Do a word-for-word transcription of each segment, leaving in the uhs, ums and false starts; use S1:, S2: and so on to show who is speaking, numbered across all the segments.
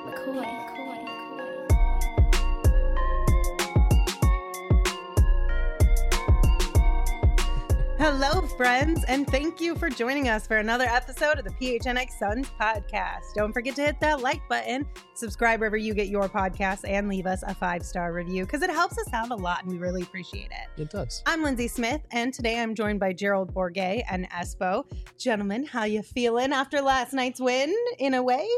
S1: McCoy, McCoy, McCoy.
S2: Hello, friends, and thank you for joining us for another episode of the P H N X Suns podcast. Don't forget to hit that like button, subscribe wherever you get your podcasts, and leave us a five-star review because it helps us out a lot, and we really appreciate it.
S3: It does.
S2: I'm Lindsay Smith, and today I'm joined by Gerald Bourguet and Espo. Gentlemen, how you feeling after last night's win, in a way?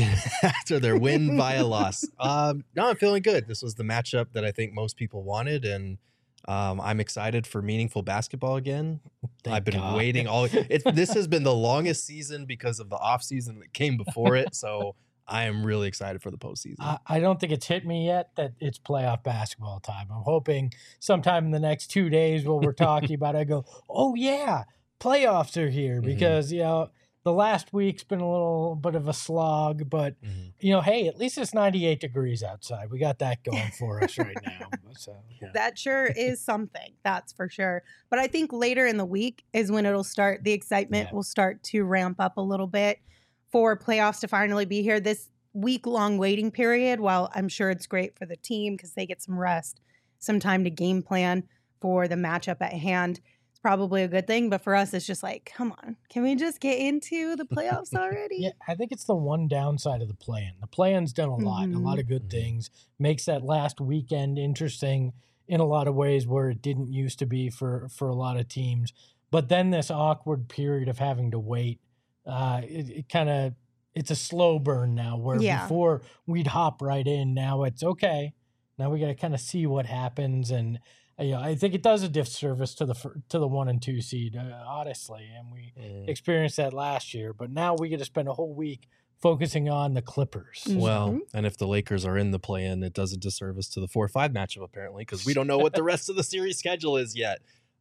S3: After their win via loss. Um, no, I'm feeling good. This was the matchup that I think most people wanted, and um, I'm excited for meaningful basketball again.
S4: Thank
S3: I've been
S4: God.
S3: waiting all. It, this has been the longest season because of the off season that came before it. So I am really excited for the postseason.
S4: I, I don't think it's hit me yet that it's playoff basketball time. I'm hoping sometime in the next two days while we're talking about it, I go, oh, yeah, playoffs are here. Because, mm-hmm. you know, the last week's been a little bit of a slog. But, mm-hmm. you know, hey, at least it's ninety-eight degrees outside. We got that going for us right now. So, yeah.
S2: That sure is something. That's for sure. But I think later in the week is when it'll start. The excitement yeah. will start to ramp up a little bit for playoffs to finally be here. This week-long waiting period, while I'm sure it's great for the team because they get some rest, some time to game plan for the matchup at hand, it's probably a good thing. But for us, it's just like, come on, can we just get into the playoffs already?
S4: Yeah, I think it's the one downside of the play-in. The play-in's done a lot, mm-hmm. a lot of good things, makes that last weekend interesting in a lot of ways where it didn't used to be for, for a lot of teams. But then this awkward period of having to wait, uh, it, it kind of, it's a slow burn now where yeah. before we'd hop right in. Now it's okay. Now we got to kind of see what happens. And, you know, I think it does a disservice to the, to the one and two seed, uh, honestly. And we mm. experienced that last year, but now we get to spend a whole week focusing on the Clippers.
S3: Well, mm-hmm. and if the Lakers are in the play-in, it does a disservice to the four five matchup, apparently, because we don't know what the rest of the series schedule is yet.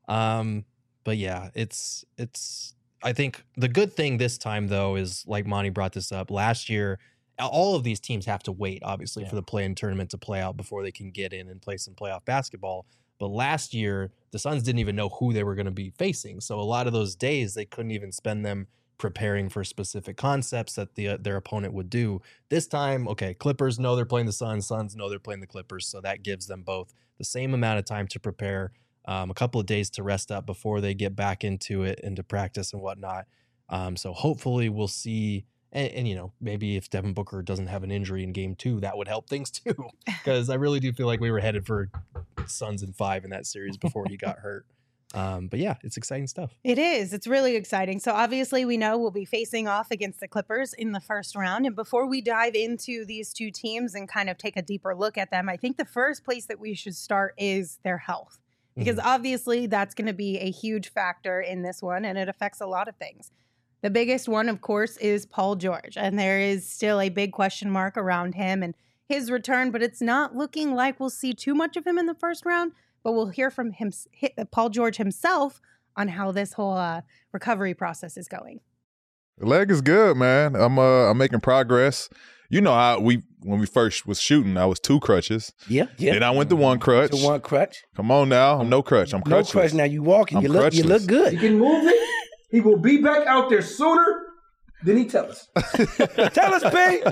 S3: Um, but yeah, it's, it's, I think the good thing this time, though, is like Monty brought this up last year, all of these teams have to wait, obviously, yeah. for the play-in tournament to play out before they can get in and play some playoff basketball. But last year, the Suns didn't even know who they were going to be facing. So a lot of those days, they couldn't even spend them preparing for specific concepts that the uh, their opponent would do. This time, okay, Clippers know they're playing the Suns. Suns know they're playing the Clippers. So that gives them both the same amount of time to prepare, um, a couple of days to rest up before they get back into it, into practice and whatnot. Um, so hopefully we'll see. And, and, you know, maybe if Devin Booker doesn't have an injury in game two, that would help things too. Because I really do feel like we were headed for Suns in five in that series before he got hurt. Um, but yeah, it's exciting stuff.
S2: It is. It's really exciting. So obviously we know we'll be facing off against the Clippers in the first round. And before we dive into these two teams and kind of take a deeper look at them, I think the first place that we should start is their health. Because mm-hmm. obviously that's going to be a huge factor in this one, and it affects a lot of things. The biggest one, of course, is Paul George. And there is still a big question mark around him and his return, but it's not looking like we'll see too much of him in the first round. But we'll hear from him, Paul George himself, on how this whole uh, recovery process is going.
S5: The leg is good, man. I'm uh, I'm making progress. You know, I we when we first was shooting, I was two crutches.
S6: Yeah, yeah.
S5: Then I went to one crutch.
S6: To one crutch.
S5: Come on now, I'm no crutch. I'm
S6: no
S5: crutchless.
S6: crutch. Now you walking.
S5: I'm
S6: You look.
S5: crutchless.
S6: You look good.
S7: He can move it. He will be back out there sooner than he tell us.
S6: Tell us, B.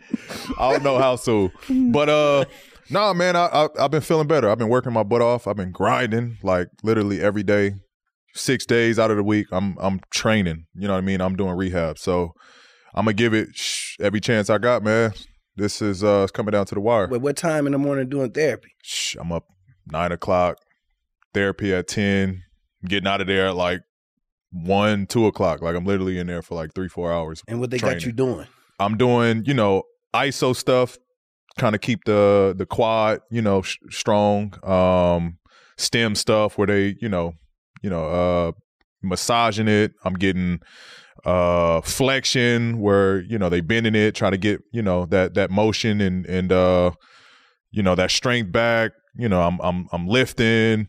S5: I don't know how soon, but uh. No, man, I, I, I've been feeling better. I've been working my butt off. I've been grinding like literally every day, six days out of the week. I'm I'm training. You know what I mean? I'm doing rehab. So I'm going to give it shh, every chance I got, man. This is uh, it's coming down to the wire.
S6: Wait, what time in the morning doing therapy?
S5: Shh, I'm up nine o'clock, therapy at ten, getting out of there at like one, two o'clock. Like I'm literally in there for like three, four hours.
S6: And what they
S5: training.
S6: got you doing?
S5: I'm doing, you know, I S O stuff. Kind of keep the the quad, you know, sh- strong. Um, stem stuff where they, you know, you know, uh, massaging it. I'm getting uh, flexion where you know they bending it, trying to get you know that that motion and and uh, you know that strength back. You know, I'm I'm I'm lifting,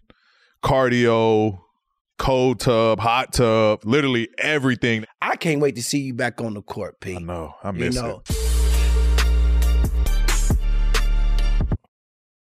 S5: cardio, cold tub, hot tub, literally everything.
S6: I can't wait to see you back on the court, P.
S5: I know, I miss
S6: you know.
S5: it.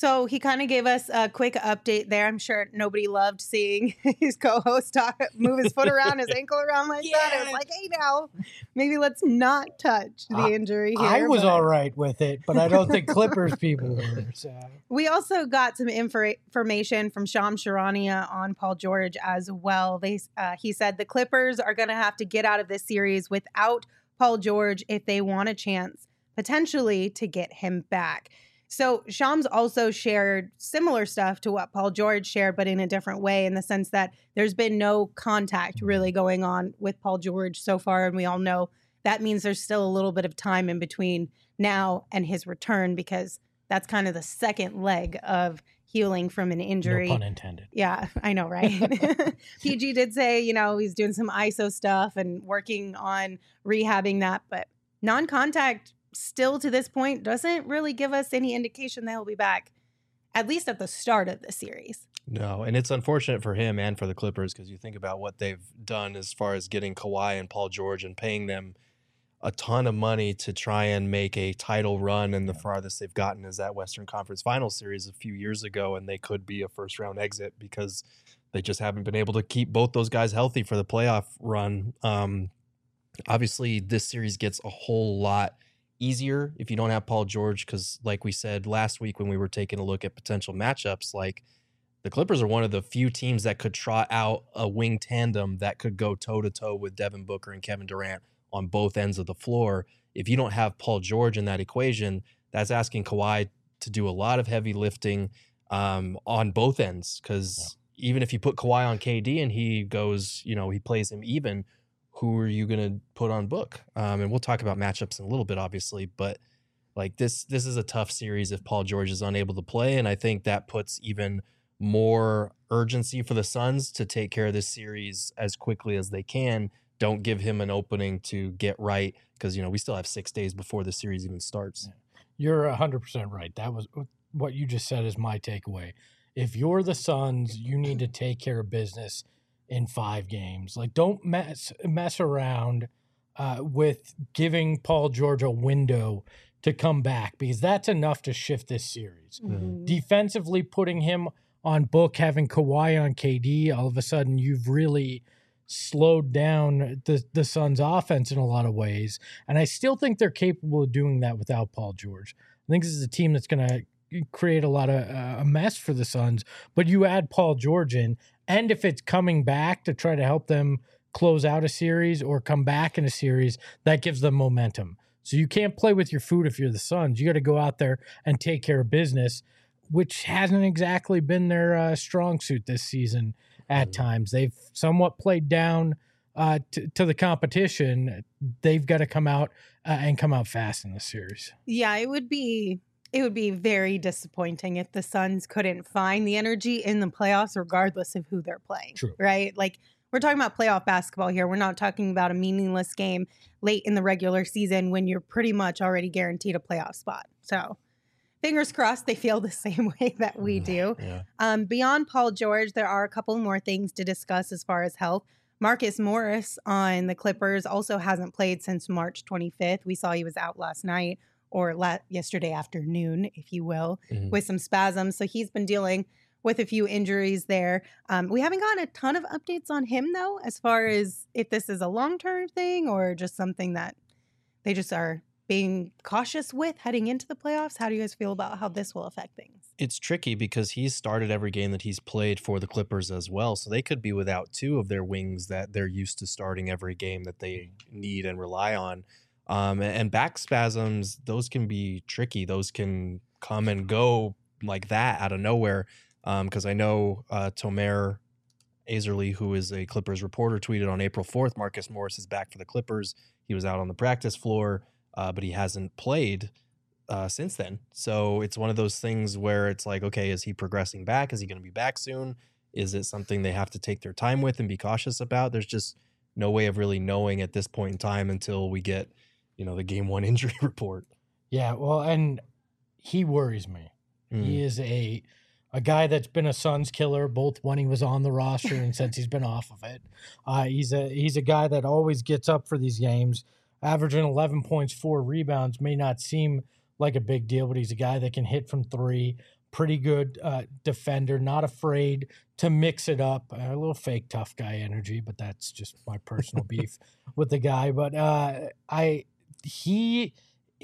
S2: So he kind of gave us a quick update there. I'm sure nobody loved seeing his co-host talk, move his foot around, his ankle around like yeah. that. It was like, hey, now, maybe let's not touch the
S4: I,
S2: injury here.
S4: I was
S2: but...
S4: all right with it, but I don't think Clippers people were. So.
S2: We also got some infor- information from Shams Charania on Paul George as well. They, uh, he said the Clippers are going to have to get out of this series without Paul George if they want a chance, potentially, to get him back. So Shams also shared similar stuff to what Paul George shared, but in a different way, in the sense that there's been no contact really going on with Paul George so far. And we all know that means there's still a little bit of time in between now and his return, because that's kind of the second leg of healing from an injury.
S4: No pun intended.
S2: Yeah, I know, right? P G did say, you know, he's doing some I S O stuff and working on rehabbing that, but non-contact still to this point doesn't really give us any indication that he'll be back, at least at the start of the series.
S3: No, and it's unfortunate for him and for the Clippers, because you think about what they've done as far as getting Kawhi and Paul George and paying them a ton of money to try and make a title run, and the farthest they've gotten is that Western Conference Finals series a few years ago, and they could be a first round exit because they just haven't been able to keep both those guys healthy for the playoff run. Um, obviously, this series gets a whole lot easier if you don't have Paul George, because like we said last week when we were taking a look at potential matchups, like the Clippers are one of the few teams that could trot out a wing tandem that could go toe-to-toe with Devin Booker and Kevin Durant on both ends of the floor. If you don't have Paul George in that equation, that's asking Kawhi to do a lot of heavy lifting um, on both ends, because yeah. even if you put Kawhi on K D and he goes, you know, he plays him even, who are you going to put on Book? Um, and we'll talk about matchups in a little bit, obviously, but like this, this is a tough series if Paul George is unable to play. And I think that puts even more urgency for the Suns to take care of this series as quickly as they can. Don't give him an opening to get right, because, you know, we still have six days before the series even starts.
S4: You're one hundred percent right. That was what you just said is my takeaway. If you're the Suns, you need to take care of business in five games. Like, don't mess mess around uh, with giving Paul George a window to come back, because that's enough to shift this series. Mm-hmm. Defensively, putting him on Book, having Kawhi on K D, all of a sudden you've really slowed down the, the Suns' offense in a lot of ways. And I still think they're capable of doing that without Paul George. I think this is a team that's going to create a lot of uh, a mess for the Suns, but you add Paul George in, and if it's coming back to try to help them close out a series or come back in a series, that gives them momentum. So you can't play with your food if you're the Suns. You got to go out there and take care of business, which hasn't exactly been their uh, strong suit this season at mm-hmm. times. They've somewhat played down uh, t- to the competition. They've got to come out uh, and come out fast in the series.
S2: Yeah, it would be it would be very disappointing if the Suns couldn't find the energy in the playoffs, regardless of who they're playing.
S4: True.
S2: Right? Like, we're talking about playoff basketball here. We're not talking about a meaningless game late in the regular season when you're pretty much already guaranteed a playoff spot. So fingers crossed they feel the same way that we do.
S3: Yeah.
S2: Um, beyond Paul George, there are a couple more things to discuss as far as health. Marcus Morris on the Clippers also hasn't played since March twenty-fifth. We saw he was out last night, or la- yesterday afternoon, if you will, mm-hmm. with some spasms. So he's been dealing with a few injuries there. Um, we haven't gotten a ton of updates on him, though, as far as if this is a long-term thing or just something that they just are being cautious with heading into the playoffs. How do you guys feel about how this will affect things?
S3: It's tricky because he's started every game that he's played for the Clippers as well. So they could be without two of their wings that they're used to starting every game that they need and rely on. Um, and back spasms, those can be tricky. Those can come and go like that out of nowhere. Because um, I know uh, Tomer Azerly, who is a Clippers reporter, tweeted on April fourth, Marcus Morris is back for the Clippers. He was out on the practice floor, uh, but he hasn't played uh, since then. So it's one of those things where it's like, okay, is he progressing back? Is he going to be back soon? Is it something they have to take their time with and be cautious about? There's just no way of really knowing at this point in time until we get, you know, the game one injury report.
S4: Yeah, well, and he worries me. Mm. He is a... A guy that's been a Suns killer, both when he was on the roster and since he's been off of it. Uh, he's a he's a guy that always gets up for these games, averaging eleven points, four rebounds. May not seem like a big deal, but he's a guy that can hit from three, pretty good uh, defender, not afraid to mix it up. Uh, a little fake tough guy energy, but that's just my personal beef with the guy. But uh, I he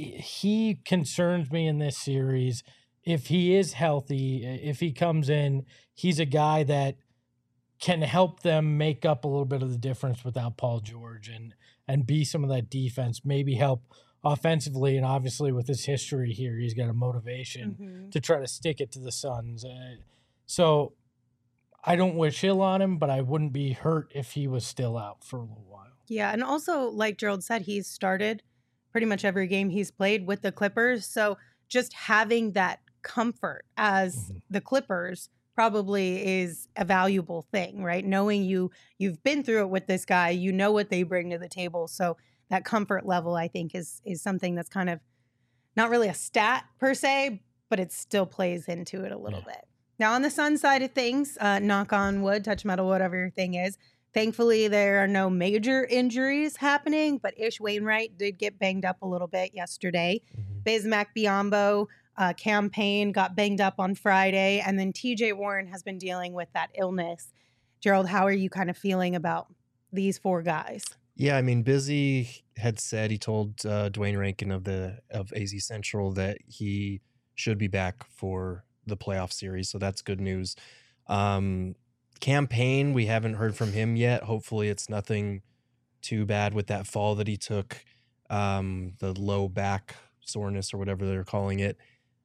S4: he concerns me in this series. If he is healthy, if he comes in, he's a guy that can help them make up a little bit of the difference without Paul George and and be some of that defense, maybe help offensively. And obviously with his history here, he's got a motivation
S2: Mm-hmm.
S4: to try to stick it to the Suns. Uh, so I don't wish ill on him, but I wouldn't be hurt if he was still out for a little while.
S2: Yeah, and also like Gerald said, he's started pretty much every game he's played with the Clippers. So just having that comfort as
S4: Mm-hmm.
S2: the Clippers probably is a valuable thing, right? Knowing you you've been through it with this guy, you know what they bring to the table. So that comfort level, I think, is is something that's kind of not really a stat per se, but it still plays into it a little
S4: Yeah.
S2: bit. Now, on the Sun side of things, uh, knock on wood, touch metal, whatever your thing is. Thankfully, there are no major injuries happening, but Ish Wainwright did get banged up a little bit yesterday.
S3: Mhm.
S2: Bismack Biyombo, uh, campaign got banged up on Friday, and then T J Warren has been dealing with that illness. Gerald, how are you kind of feeling about these four guys?
S3: Yeah, I mean, Busy had said, he told uh, Dwayne Rankin of the of A Z Central that he should be back for the playoff series, so that's good news. Um, campaign, we haven't heard from him yet. Hopefully, it's nothing too bad with that fall that he took, um, the low back soreness or whatever they're calling it.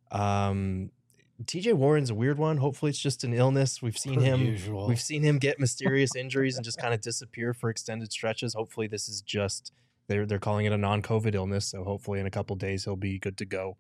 S3: Um, T J Warren's a weird one. Hopefully, it's just an illness. We've seen
S4: Per
S3: him.
S4: usual.
S3: We've seen him get mysterious injuries and just kind of disappear for extended stretches. Hopefully, this is just they're they're calling it a non-COVID illness. So hopefully, in a couple days, he'll be good to go.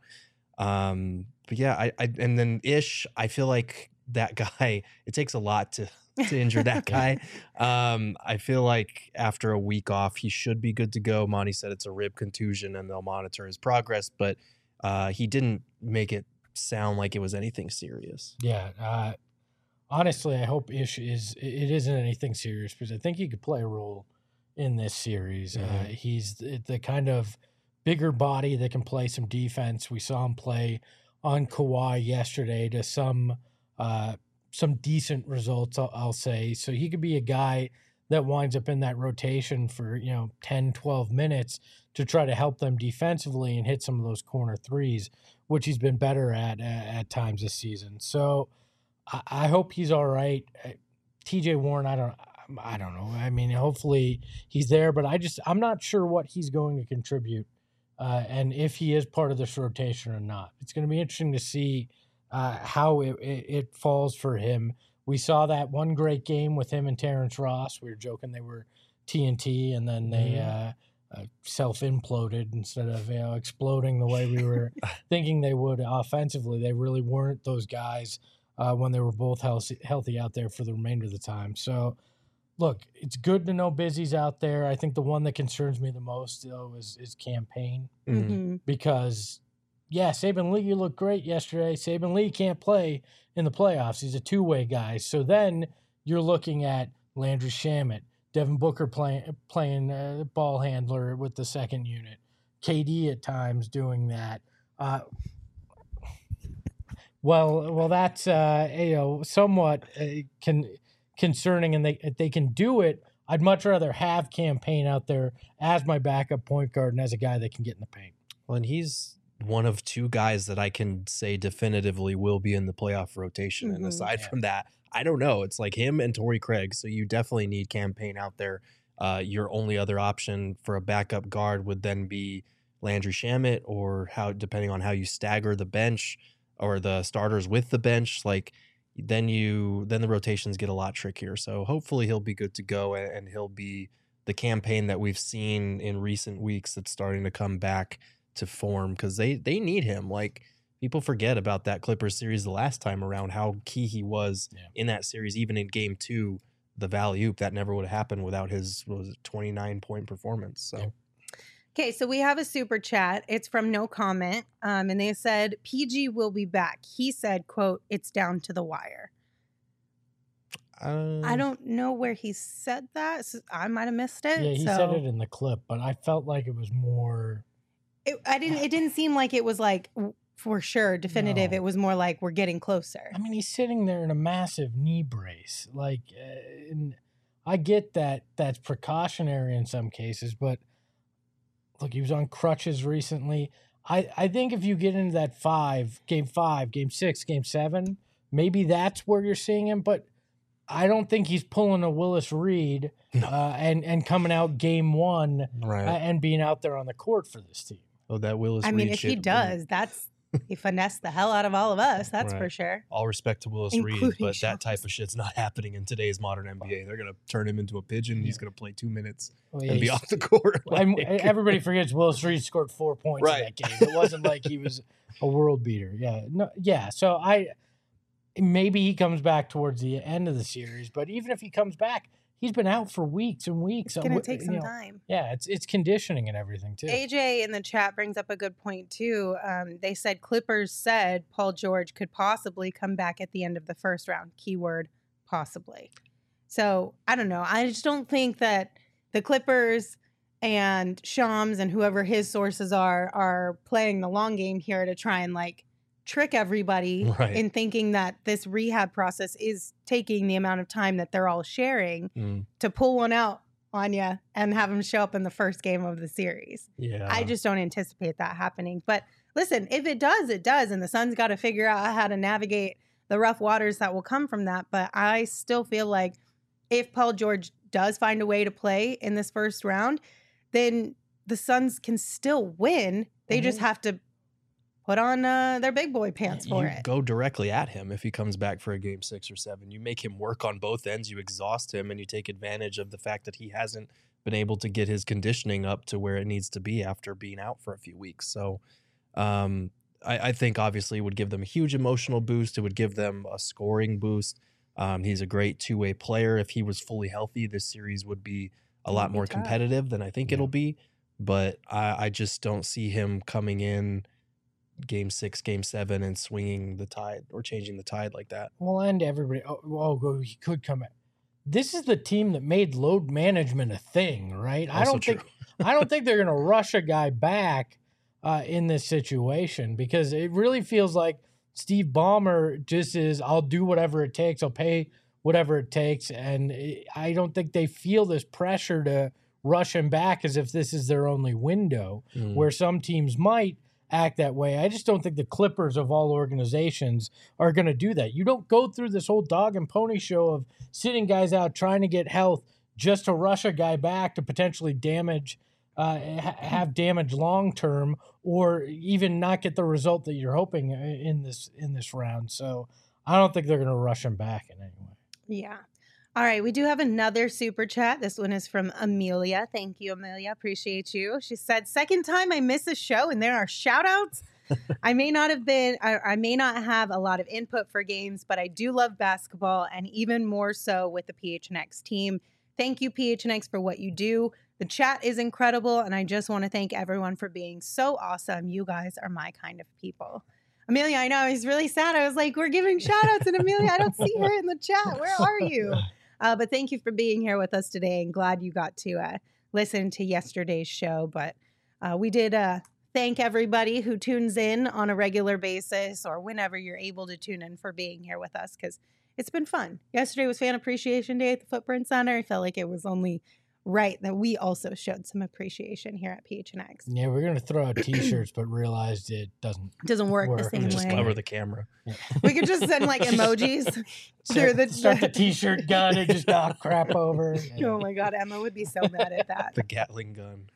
S3: Um, but yeah, I, I and then Ish, I feel like that guy. It takes a lot to to injure that guy. Um, I feel like after a week off, he should be good to go. Monty said it's a rib contusion, and they'll monitor his progress. But uh, he didn't make it sound like it was anything serious.
S4: Yeah. Uh, honestly, I hope Ish is it isn't anything serious because I think he could play a role in this series. Uh,
S3: Mhm.
S4: he's the, the kind of bigger body that can play some defense. We saw him play on Kawhi yesterday to some uh, some decent results, I'll, I'll say. So he could be a guy that winds up in that rotation for, you know, ten, twelve minutes to try to help them defensively and hit some of those corner threes, which he's been better at uh, at times this season. So I, I hope he's all right. Uh, T J Warren, I don't, I don't know. I mean, hopefully he's there, but I just, I'm not sure what he's going to contribute, uh, and if he is part of this rotation or not. It's going to be interesting to see uh, how it, it, it falls for him. We saw that one great game with him and Terrence Ross. We were joking they were T N T, and then they uh, uh, self-imploded instead of, you know, exploding the way we were thinking they would offensively. They really weren't those guys uh, when they were both healthy, healthy out there for the remainder of the time. So, look, it's good to know Busy's out there. I think the one that concerns me the most, though, is, is campaign
S3: Mhm.
S2: Mhm.
S4: because, yeah, Saban Lee, you looked great yesterday. Saban Lee can't play in the playoffs. He's a two-way guy. So then you're looking at Landry Shamet, Devin Booker playing playing uh, ball handler with the second unit, K D at times doing that. Uh, well, well, that's uh, you know somewhat uh, con- concerning, and they if they can do it. I'd much rather have Campaign out there as my backup point guard and as a guy that can get in the paint.
S3: Well, and he's one of two guys that I can say definitively will be in the playoff rotation. And
S2: Mhm.
S3: aside
S4: Yeah.
S3: from that, I don't know. It's like him and Torrey Craig. So you definitely need Campaign out there. Uh, your only other option for a backup guard would then be Landry Shamet, or how, depending on how you stagger the bench or the starters with the bench, like then you then the rotations get a lot trickier. So hopefully he'll be good to go, and, and he'll be the Campaign that we've seen in recent weeks that's starting to come back to form, because they they need him. Like, people forget about that Clippers series the last time around, how key he was
S4: Yeah.
S3: in that series. Even in game two, the Valley Oop, that never would have happened without his, what was it, twenty-nine point performance. So
S4: Yeah.
S2: Okay, so we have a super chat. It's from No Comment, um, and they said P G will be back. He said, "quote It's down to the wire."
S3: uh,
S2: I don't know where he said that. So I might have missed it.
S4: Yeah, he
S2: so
S4: said it in the clip, but I felt like it was more.
S2: It, I didn't. It didn't seem like it was like w- for sure definitive.
S4: No.
S2: It was more like we're getting closer.
S4: I mean, he's sitting there in a massive knee brace. Like, uh, and I get that that's precautionary in some cases, but look, he was on crutches recently. I, I think if you get into that five, game five, game six, game seven, maybe that's where you're seeing him. But I don't think he's pulling a Willis Reed
S3: No.
S4: uh, and, and coming out game one
S3: Right.
S4: uh, and being out there on the court for this team.
S3: Oh, that Willis
S2: I mean,
S3: Reed
S2: if he
S3: shit,
S2: does, that's he finessed the hell out of all of us. That's for
S3: Right.
S2: sure.
S3: all respect to Willis Reed,
S2: Including
S3: but that
S2: Shams.
S3: type of shit's not happening in today's modern N B A. They're gonna turn him into a pigeon. He's gonna play two minutes
S4: Well, yeah,
S3: and be
S4: he's-
S3: off the court.
S4: I'm-
S3: Like,
S4: everybody forgets Willis Reed scored four points
S3: Right.
S4: in that game. It wasn't like he was a world beater. Yeah, no, yeah. So I maybe he comes back towards the end of the series, but even if he comes back, he's been out for weeks and weeks.
S2: It's gonna
S4: Uh,
S2: take
S4: you
S2: some
S4: know,
S2: time.
S4: Yeah, it's it's conditioning and everything too.
S2: A J in the chat brings up a good point too. Um, they said Clippers said Paul George could possibly come back at the end of the first round. Keyword possibly. So I don't know. I just don't think that the Clippers and Shams and whoever his sources are are playing the long game here to try and like trick everybody
S3: Right.
S2: in thinking that this rehab process is taking the amount of time that they're all sharing
S3: mm,
S2: to pull one out on you and have him show up in the first game of the series.
S3: yeah,
S2: I just don't anticipate that happening. But listen, if it does, it does. And the Suns got to figure out how to navigate the rough waters that will come from that. But I still feel like if Paul George does find a way to play in this first round, then the Suns can still win. They just
S4: Mhm.
S2: have to put on uh, their big boy pants for
S3: you
S2: it.
S3: go directly at him if he comes back for a game six or seven. You make him work on both ends. You exhaust him, and you take advantage of the fact that he hasn't been able to get his conditioning up to where it needs to be after being out for a few weeks. So, um, I, I think obviously it would give them a huge emotional boost. It would give them a scoring boost. Um, he's a great two-way player. If he was fully healthy, this series would be a
S2: It
S3: lot
S2: would be
S3: more
S2: tough.
S3: competitive than I think
S4: Yeah.
S3: it'll be. But I, I just don't see him coming in game six, game seven, and swinging the tide or changing the tide like that.
S4: Well, and everybody. Oh, oh, go- he could come back. This is the team that made load management a thing, right? I
S3: Also
S4: don't think
S3: true.
S4: I don't think they're going to rush a guy back uh, in this situation because it really feels like Steve Ballmer just is, I'll do whatever it takes. I'll pay whatever it takes. And it- I don't think they feel this pressure to rush him back as if this is their only window,
S3: Mm.
S4: where some teams might act that way. I just don't think the Clippers of all organizations are going to do that. You don't go through this whole dog and pony show of sitting guys out trying to get health just to rush a guy back to potentially damage, uh, ha- have damage long term, or even not get the result that you're hoping in this in this round. So I don't think they're going to rush him back in any way.
S2: Yeah. All right. We do have another super chat. This one is from Amelia. Thank you, Amelia. Appreciate you. She said, second time I miss a show and there are shout outs. I may not have been, I, I may not have a lot of input for games, but I do love basketball and even more so with the P H N X team. Thank you, P H N X, for what you do. The chat is incredible. And I just want to thank everyone for being so awesome. You guys are my kind of people. Amelia, I know I was really sad. I was like, we're giving shout outs and Amelia, I don't see her in the chat. Where are you? Uh, but thank you for being here with us today, and glad you got to uh, listen to yesterday's show. But uh, we did uh, thank everybody who tunes in on a regular basis or whenever you're able to tune in for being here with us, because it's been fun. Yesterday was Fan Appreciation Day at the Footprint Center. I felt like it was only right that we also showed some appreciation here at P H N X.
S4: Yeah, we're going to throw out t-shirts, but realized it doesn't.
S2: It doesn't work, the
S4: Work.
S2: same
S3: Just
S2: way.
S3: cover the camera.
S2: We could just send like emojis through
S4: Start,
S2: the.
S4: start the t-shirt gun and just knock crap over.
S2: Oh my God, Emma would be so mad at that.
S3: The Gatling gun.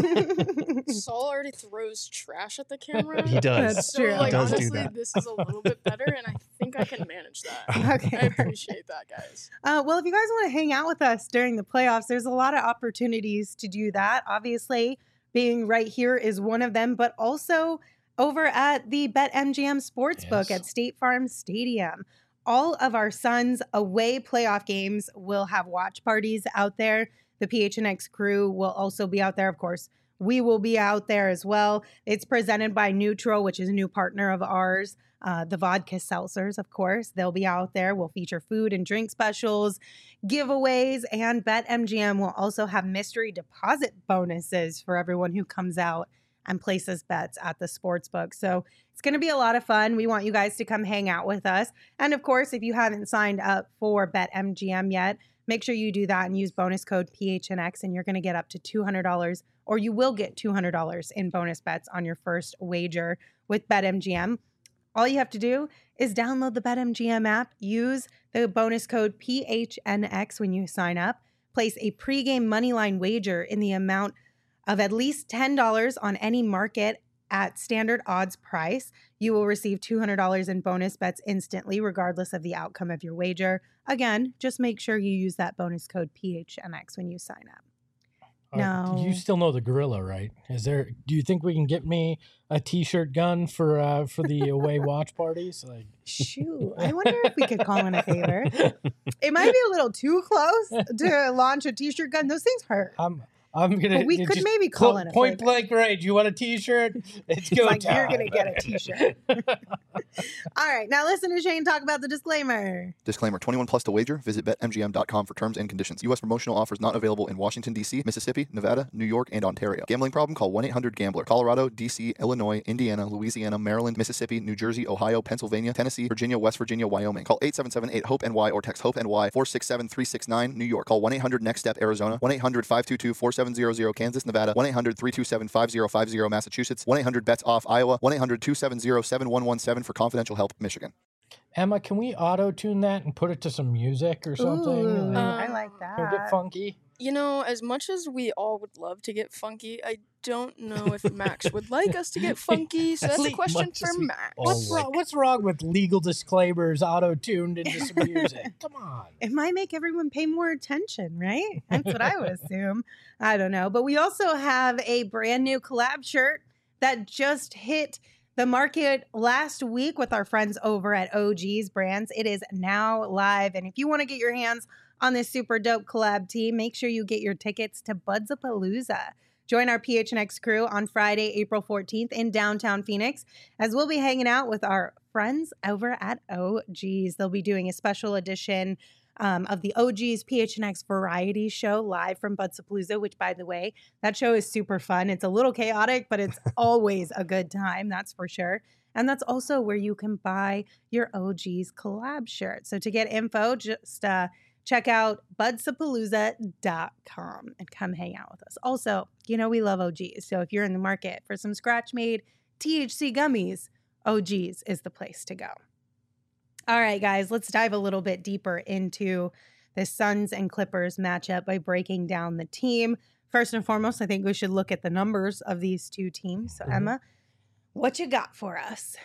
S1: Saul already throws trash at the camera.
S3: He does.
S2: That's
S1: So,
S2: true.
S1: like,
S3: He does do
S1: honestly,
S3: that.
S1: this is a little bit better, and I think I can manage that.
S2: Okay.
S1: I appreciate that, guys.
S2: Uh, well, if you guys want to hang out with us during the playoffs, there's a lot of opportunities to do that. Obviously, being right here is one of them, but also over at the BetMGM Sportsbook
S4: Yes.
S2: at State Farm Stadium. All of our Suns away playoff games will have watch parties out there. The P H N X crew will also be out there, of course. We will be out there as well. It's presented by Neutral, which is a new partner of ours. Uh, the vodka seltzers, of course, they'll be out there. We'll feature food and drink specials, giveaways, and BetMGM will also have mystery deposit bonuses for everyone who comes out and places bets at the sports book. So it's going to be a lot of fun. We want you guys to come hang out with us. And of course, if you haven't signed up for BetMGM yet, make sure you do that and use bonus code P H N X, and you're going to get up to two hundred dollars, or you will get two hundred dollars in bonus bets on your first wager with BetMGM. All you have to do is download the BetMGM app, use the bonus code P H N X when you sign up, place a pregame moneyline wager in the amount of at least ten dollars on any market at standard odds price. You will receive two hundred dollars in bonus bets instantly, regardless of the outcome of your wager. Again, just make sure you use that bonus code P H N X when you sign up.
S4: Uh,
S2: No.
S4: you still know the gorilla, right? Is there? Do you think we can get me a T-shirt gun for uh, for the away watch parties? Like,
S2: Shoot, I wonder if we could call in a favor. It might be a little too close to launch a t-shirt gun. Those things hurt.
S4: I'm I'm gonna.
S2: But we
S4: it
S2: could
S4: just
S2: maybe call
S4: cl-
S2: in a
S4: point
S2: favor.
S4: blank range. You want a T-shirt? It's go
S2: Like,
S4: time.
S2: you're gonna get a t-shirt. All right, now listen to Shane talk about the disclaimer.
S8: Disclaimer, twenty-one plus to wager. Visit bet M G M dot com for terms and conditions. U S promotional offers not available in Washington, D C, Mississippi, Nevada, New York, and Ontario. Gambling problem? Call one eight hundred gambler. Colorado, D C, Illinois, Indiana, Louisiana, Maryland, Mississippi, New Jersey, Ohio, Pennsylvania, Tennessee, Virginia, West Virginia, Wyoming. Call eight seven seven eight hope N Y or text HOPE-NY four six seven three six nine, New York. Call one eight hundred next step Arizona. one eight hundred five two two four seven zero zero, Kansas, Nevada. one eight hundred three two seven five zero five zero, Massachusetts. one eight hundred bets off, Iowa. one eight hundred two seven zero seven one one seven for confidential help, Michigan.
S4: Emma, can we auto tune that and put it to some music or something?
S2: Ooh,
S4: Like,
S2: I
S1: Um,
S2: like
S4: can we get
S2: that.
S4: funky?
S1: You know, as much as we all would love to get funky, I don't know if Max would like us to get funky. So that's a
S3: As
S1: question
S3: much
S1: for
S3: as we
S1: Max.
S3: all
S4: What's
S3: like-
S4: wrong? What's wrong with legal disclaimers auto tuned into some music? Come on.
S2: It might make everyone pay more attention, right? That's what I would assume. I don't know. But we also have a brand new collab shirt that just hit the market last week with our friends over at O G's Brands. It is now live. And if you want to get your hands on this super dope collab team, make sure you get your tickets to Budzapalooza. Join our P H N X crew on Friday, April fourteenth in downtown Phoenix, as we'll be hanging out with our friends over at O G's. They'll be doing a special edition um, of the O G's P H N X variety show live from Budzapalooza, which, by the way, that show is super fun. It's a little chaotic, but it's always a good time, that's for sure. And that's also where you can buy your O G's collab shirt. So to get info, just uh, check out budzapalooza dot com and come hang out with us. Also, you know, we love O G's. So if you're in the market for some scratch-made T H C gummies, O G's is the place to go. All right, guys, let's dive a little bit deeper into the Suns and Clippers matchup by breaking down the team. First and foremost, I think we should look at the numbers of these two teams. So,
S4: Mhm.
S2: Emma, what you got for us?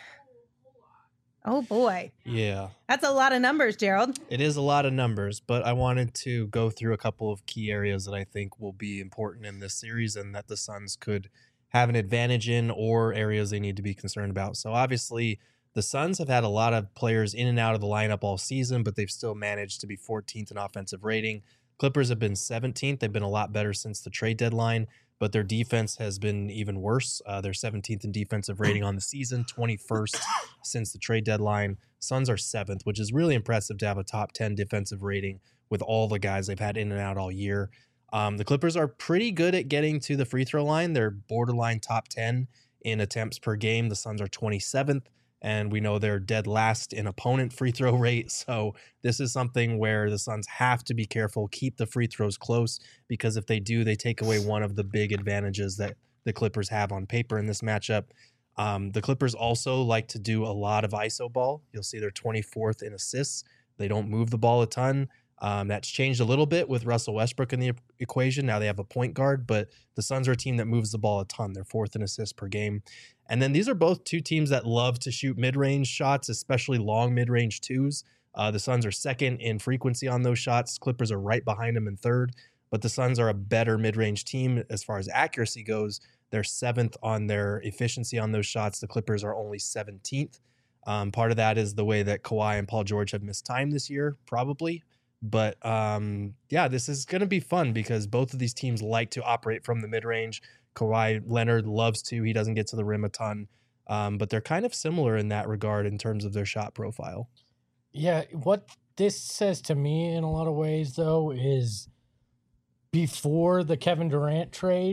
S2: Oh, boy.
S3: Yeah,
S2: That's a lot of numbers, Gerald.
S3: it is a lot of numbers, but I wanted to go through a couple of key areas that I think will be important in this series and that the Suns could have an advantage in, or areas they need to be concerned about. So obviously, the Suns have had a lot of players in and out of the lineup all season, but they've still managed to be fourteenth in offensive rating. Clippers have been seventeenth. They've been a lot better since the trade deadline, but their defense has been even worse. Uh, they're seventeenth in defensive rating on the season, twenty-first since the trade deadline. Suns are seventh, which is really impressive to have a top ten defensive rating with all the guys they've had in and out all year. Um, the Clippers are pretty good at getting to the free throw line. They're borderline top ten in attempts per game. The Suns are twenty-seventh. And we know they're dead last in opponent free throw rate. So this is something where the Suns have to be careful, keep the free throws close, because if they do, they take away one of the big advantages that the Clippers have on paper in this matchup. Um, the Clippers also like to do a lot of I S O ball. You'll see they're twenty-fourth in assists. They don't move the ball a ton. Um, that's changed a little bit with Russell Westbrook in the e- equation. Now they have a point guard, but the Suns are a team that moves the ball a ton. They're fourth in assists per game. And then these are both two teams that love to shoot mid-range shots, especially long mid-range twos. Uh, the Suns are second in frequency on those shots. Clippers are right behind them in third, but the Suns are a better mid-range team as far as accuracy goes. They're seventh on their efficiency on those shots. The Clippers are only seventeenth. Um, part of that is the way that Kawhi and Paul George have missed time this year, probably. But um, yeah, this is going to be fun because both of these teams like to operate from the mid-range. Kawhi Leonard loves to. He doesn't get to the rim a ton. Um, but they're kind of similar in that regard in terms of their shot profile.
S4: Yeah, what this says to me in a lot of ways, though, is before the Kevin Durant trade,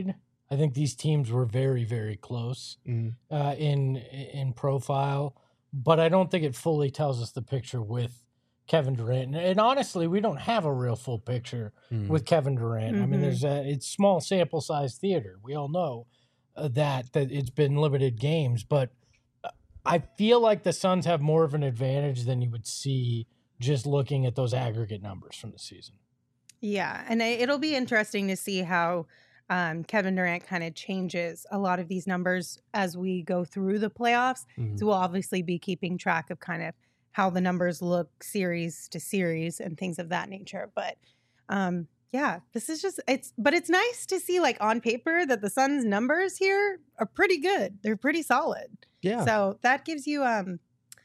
S4: I think these teams were very, very close
S3: Mhm.
S4: uh, in in profile, but I don't think it fully tells us the picture with Kevin Durant. And, and honestly, we don't have a real full picture
S3: Mm.
S4: with Kevin Durant. I mean,
S2: Mhm.
S4: there's a it's small sample size theater. We all know uh, that that it's been limited games, but uh, I feel like the Suns have more of an advantage than you would see just looking at those aggregate numbers from the season.
S2: Yeah, and I, it'll be interesting to see how um, Kevin Durant kind of changes a lot of these numbers as we go through the playoffs.
S3: Mhm.
S2: So we'll obviously be keeping track of kind of how the numbers look series to series and things of that nature. But um, yeah, this is just it's. But it's nice to see, like on paper, that the Suns' numbers here are pretty good. They're pretty solid.
S3: Yeah.
S2: So that gives you um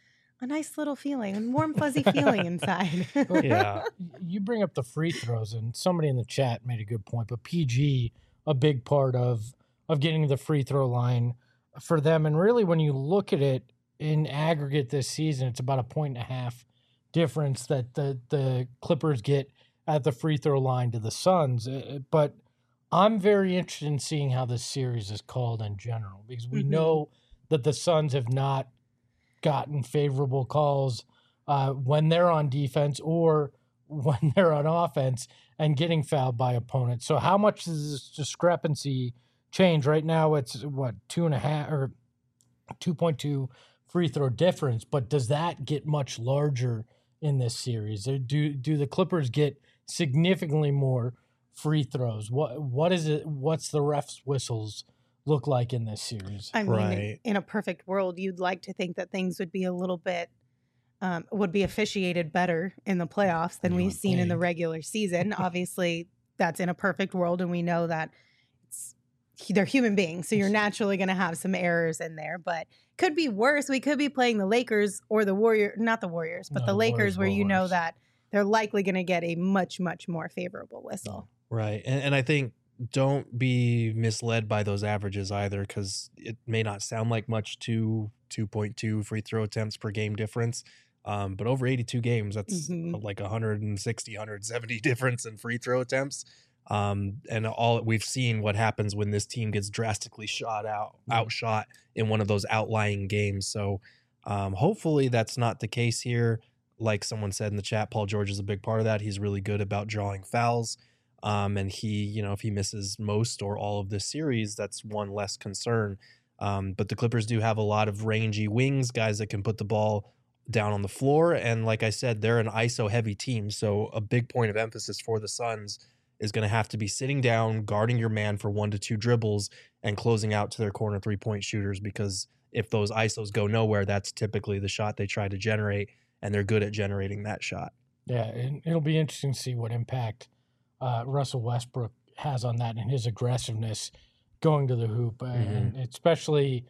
S2: a nice little feeling, a warm fuzzy feeling inside.
S3: Yeah.
S4: You bring up the free throws, and somebody in the chat made a good point. But P G, a big part of of getting to the free throw line for them, and really when you look at it in aggregate this season, it's about a point and a half difference that the the Clippers get at the free throw line to the Suns. Uh, But I'm very interested in seeing how this series is called in general, because we
S2: Mhm.
S4: know that the Suns have not gotten favorable calls uh, when they're on defense or when they're on offense and getting fouled by opponents. So how much does this discrepancy change? Right now it's what, two and a half or two point two free throw difference, but does that get much larger in this series? Or do do the Clippers get significantly more free throws? What what is it? What's the refs' whistles look like in this series?
S2: I mean, in-
S3: Right.
S2: in a perfect world, you'd like to think that things would be a little bit, um, would be officiated better in the playoffs than
S4: You
S2: we've
S4: would
S2: seen in the
S4: think.
S2: regular season. Obviously, that's in a perfect world, and we know that it's, they're human beings, so you're naturally going to have some errors in there. But could be worse. We could be playing the Lakers or the Warrior, not the Warriors, but
S4: No,
S2: the
S4: the
S2: Lakers,
S4: Warriors
S2: where
S4: were
S2: you know
S4: worse.
S2: that they're likely going to get a much, much more favorable whistle.
S3: Right. And, and I think don't be misled by those averages either, because it may not sound like much to two point two free throw attempts per game difference. Um, but over eighty-two games, that's
S2: Mhm.
S3: like one hundred sixty, one hundred seventy difference in free throw attempts. Um, and all we've seen what happens when this team gets drastically shot out,
S4: Mhm.
S3: outshot in one of those outlying games. So um, hopefully that's not the case here. Like someone said in the chat, Paul George is a big part of that. He's really good about drawing fouls. Um, and he, you know, if he misses most or all of this series, that's one less concern. Um, but the Clippers do have a lot of rangy wings, guys that can put the ball down on the floor. And like I said, they're an I S O heavy team. So a big point of emphasis for the Suns is going to have to be sitting down, guarding your man for one to two dribbles and closing out to their corner three point shooters. Because if those I S Os go nowhere, that's typically the shot they try to generate. And they're good at generating that shot.
S4: Yeah, and it'll be interesting to see what impact uh, Russell Westbrook has on that and his aggressiveness going to the hoop. Uh, And especially,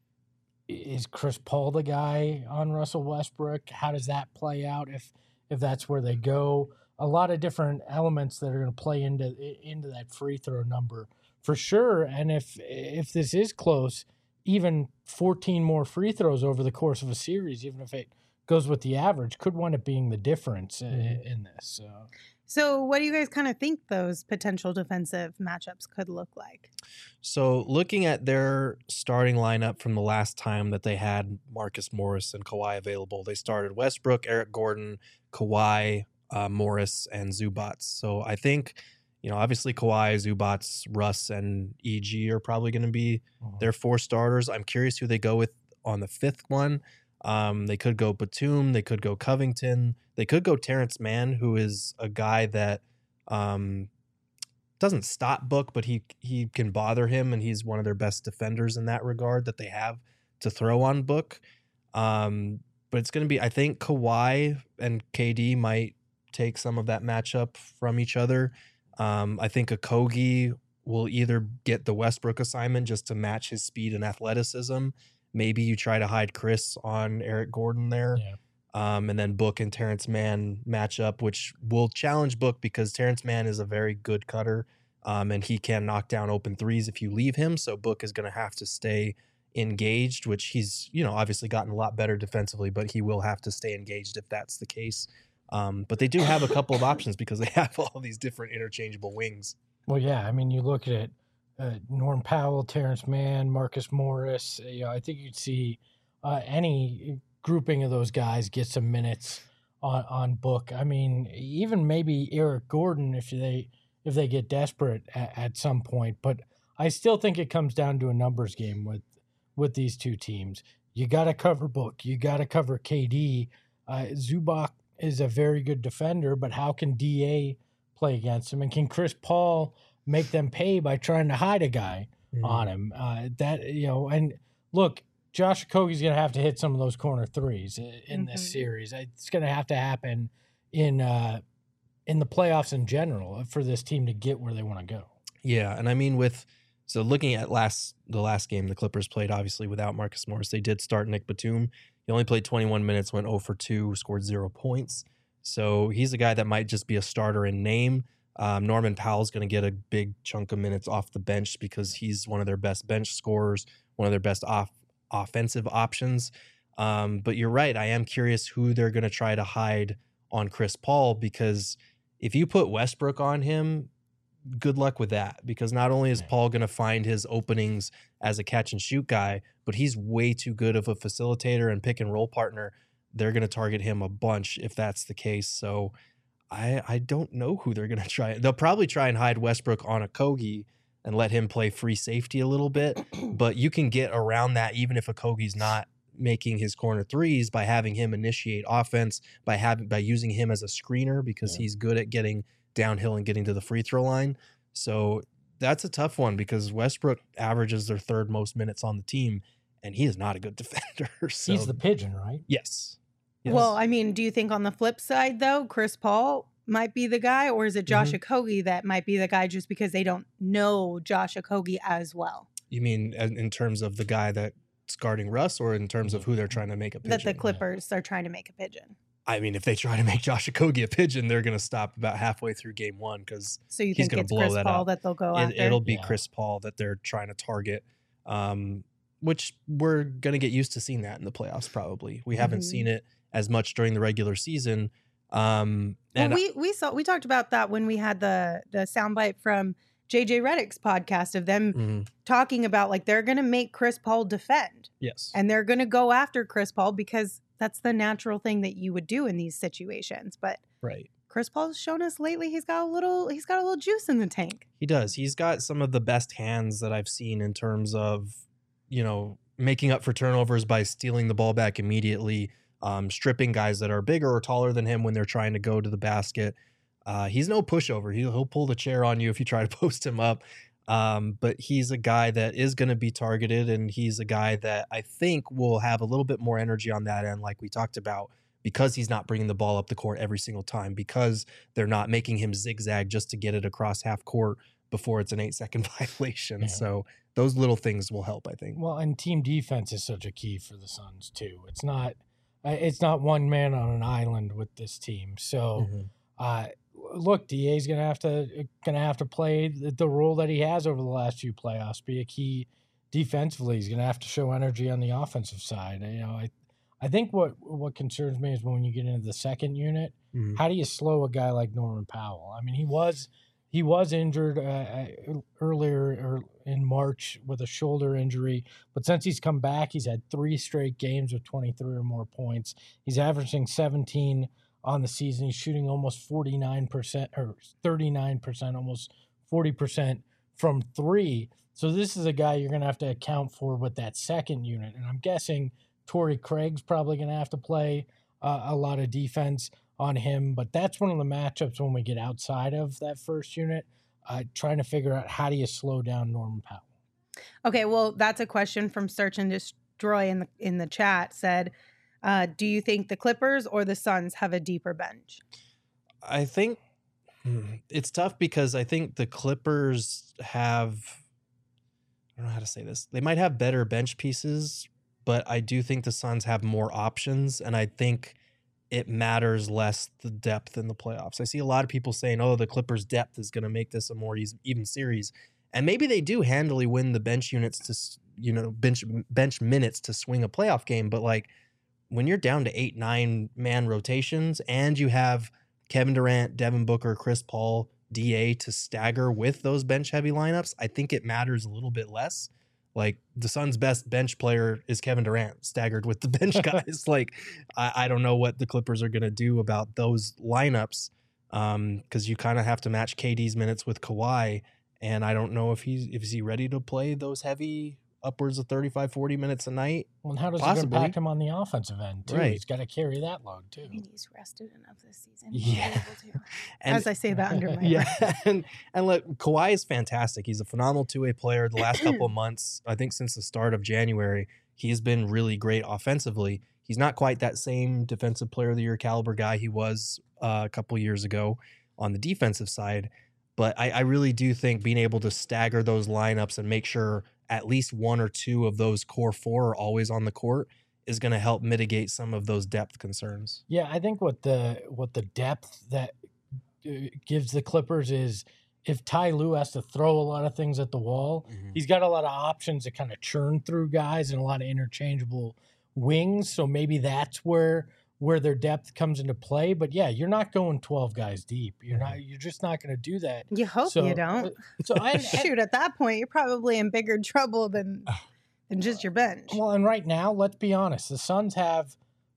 S4: is Chris Paul the guy on Russell Westbrook? How does that play out if if that's where they go? A lot of different elements that are going to play into into that free throw number for sure. And if if this is close, even fourteen more free throws over the course of a series, even if it goes with the average, could wind up being the difference i-
S3: Mhm.
S4: in this. So
S2: So, what do you guys kind of think those potential defensive matchups could look like?
S3: So looking at their starting lineup from the last time that they had Marcus Morris and Kawhi available, they started Westbrook, Eric Gordon, Kawhi, uh, Morris, and Zubats. So I think, you know, obviously Kawhi, Zubats, Russ, and E G are probably going to be
S4: Mhm.
S3: their four starters. I'm curious who they go with on the fifth one. Um, they could go Batum, they could go Covington, they could go Terrence Mann, who is a guy that um, doesn't stop Book, but he he can bother him, and he's one of their best defenders in that regard that they have to throw on Book. Um, but it's going to be, I think Kawhi and K D might take some of that matchup from each other. Um, I think Okogie will either get the Westbrook assignment just to match his speed and athleticism. Maybe you try to hide Chris on Eric Gordon there.
S4: Yeah.
S3: Um, and then Book and Terrence Mann match up, which will challenge Book because Terrence Mann is a very good cutter, um, and he can knock down open threes if you leave him. So Book is going to have to stay engaged, which he's, you know, obviously gotten a lot better defensively, but he will have to stay engaged if that's the case. Um, but they do have a couple of options because they have all these different interchangeable wings.
S4: Well, yeah. I mean, you look at it. uh, Norm Powell, Terrence Mann, Marcus Morris. You know, I think you'd see uh, any grouping of those guys get some minutes on, on book. I mean, even maybe Eric Gordon if they if they get desperate at, at some point. But I still think it comes down to a numbers game with with these two teams. You got to cover Book. You got to cover K D. Uh, Zubac is a very good defender, but how can D A play against him? And can Chris Paul make them pay by trying to hide a guy mm-hmm. on him? Uh, that you know, and look, Josh Okogie's going to have to hit some of those corner threes in mm-hmm. this series. It's going to have to happen in uh, in the playoffs in general for this team to get where they want to go.
S3: Yeah, and I mean with. So looking at last the last game the Clippers played, obviously without Marcus Morris, they did start Nick Batum. He only played twenty-one minutes, went zero for two, scored zero points. So he's a guy that might just be a starter in name. Um, Norman Powell's going to get a big chunk of minutes off the bench because he's one of their best bench scorers, one of their best off offensive options. Um, but you're right. I am curious who they're going to try to hide on Chris Paul, because if you put Westbrook on him, good luck with that, because not only is Paul going to find his openings as a catch and shoot guy, but he's way too good of a facilitator and pick and roll partner. They're going to target him a bunch if that's the case. So I I don't know who they're going to try. They'll probably try and hide Westbrook on Okogie and let him play free safety a little bit, but you can get around that even if Okogie's not making his corner threes by having him initiate offense, by having by using him as a screener, because yeah. he's good at getting downhill and getting to the free throw line. So that's a tough one, because Westbrook averages their third most minutes on the team, and he is not a good defender. So.
S4: He's the pigeon, right?
S3: Yes. yes.
S2: Well, I mean, do you think on the flip side, though, Chris Paul might be the guy, or is it Josh mm-hmm. Okogie that might be the guy just because they don't know Josh Okogie as well?
S3: You mean in terms of the guy that's guarding Russ, or in terms of who they're trying to make a pigeon?
S2: That the Clippers yeah. are trying to make a pigeon.
S3: I mean, if they try to make Josh Okogie a pigeon, they're going to stop about halfway through game one, because
S2: so you
S3: he's
S2: think it's
S3: blow
S2: Chris
S3: that
S2: Paul
S3: up.
S2: that they'll go
S3: it,
S2: after?
S3: It'll be
S4: yeah.
S3: Chris Paul that they're trying to target, um, which we're going to get used to seeing that in the playoffs probably. We haven't mm-hmm. seen it as much during the regular season. Um, and
S2: well, we we saw we talked about that when we had the the soundbite from J J Redick's podcast of them mm-hmm. talking about, like, they're going to make Chris Paul defend.
S3: Yes.
S2: And they're going to go after Chris Paul because that's the natural thing that you would do in these situations. But
S3: right.
S2: Chris Paul's shown us lately he's got a little he's got a little juice in the tank.
S3: He does. He's got some of the best hands that I've seen in terms of, you know, making up for turnovers by stealing the ball back immediately, um, stripping guys that are bigger or taller than him when they're trying to go to the basket. Uh, he's no pushover. He'll, he'll pull the chair on you if you try to post him up. Um, but he's a guy that is going to be targeted, and he's a guy that I think will have a little bit more energy on that end, like we talked about, because he's not bringing the ball up the court every single time, because they're not making him zigzag just to get it across half court before it's an eight second violation. Yeah. So those little things will help, I think.
S4: Well, and team defense is such a key for the Suns too. It's not, it's not one man on an island with this team. So, mm-hmm. uh, look, D A's gonna have to gonna have to play the, the role that he has over the last few playoffs. Be a key defensively. He's gonna have to show energy on the offensive side. You know, I I think what what concerns me is when you get into the second unit, mm-hmm. how do you slow a guy like Norman Powell? I mean, he was he was injured uh, earlier in March with a shoulder injury, but since he's come back, he's had three straight games with twenty-three or more points. He's averaging seventeen on the season. He's shooting almost forty-nine percent or thirty-nine percent, almost forty percent from three. So this is a guy you're going to have to account for with that second unit. And I'm guessing Torrey Craig's probably going to have to play uh, a lot of defense on him. But that's one of the matchups when we get outside of that first unit, uh, trying to figure out how do you slow down Norman Powell.
S2: Okay, well, that's a question from Search and Destroy in the, in the chat said, Uh, do you think the Clippers or the Suns have a deeper bench?
S3: I think hmm, it's tough because I think the Clippers have, I don't know how to say this. They might have better bench pieces, but I do think the Suns have more options, and I think it matters less the depth in the playoffs. I see a lot of people saying, oh, the Clippers' depth is going to make this a more even series. And maybe they do handily win the bench units to, you know, bench bench minutes to swing a playoff game, but like, when you're down to eight, nine man rotations and you have Kevin Durant, Devin Booker, Chris Paul, D A to stagger with those bench heavy lineups, I think it matters a little bit less. Like the Suns' best bench player is Kevin Durant, staggered with the bench guys. Like I, I don't know what the Clippers are going to do about those lineups um, because you kind of have to match K D's minutes with Kawhi, and I don't know if he's if is he ready to play those heavy upwards of thirty-five, forty minutes a night.
S4: Well, and how does
S3: Possibly.
S4: it impact him on the offensive end, too?
S3: Right.
S4: He's got to carry that load, too.
S2: I mean, he's rested enough this season.
S3: Yeah.
S2: He's able to.
S3: And,
S2: As I say that under my
S3: yeah,
S2: breath.
S3: and and look, Kawhi is fantastic. He's a phenomenal two-way player. The last couple of months, I think since the start of January, he's been really great offensively. He's not quite that same defensive player of the year caliber guy he was uh, a couple years ago on the defensive side. But I, I really do think being able to stagger those lineups and make sure at least one or two of those core four are always on the court is going to help mitigate some of those depth concerns.
S4: Yeah, I think what the what the depth that uh, gives the Clippers is if Ty Lue has to throw a lot of things at the wall,
S3: Mm-hmm.
S4: he's got a lot of options to kind of churn through guys and a lot of interchangeable wings. So maybe that's where where their depth comes into play. But yeah, you're not going twelve guys deep. You're not. You're just not going to do that.
S2: You hope
S4: So-
S2: you don't.
S4: So I
S2: Shoot, at that point, you're probably in bigger trouble than than just your bench.
S4: Well, and right now, let's be honest, the Suns have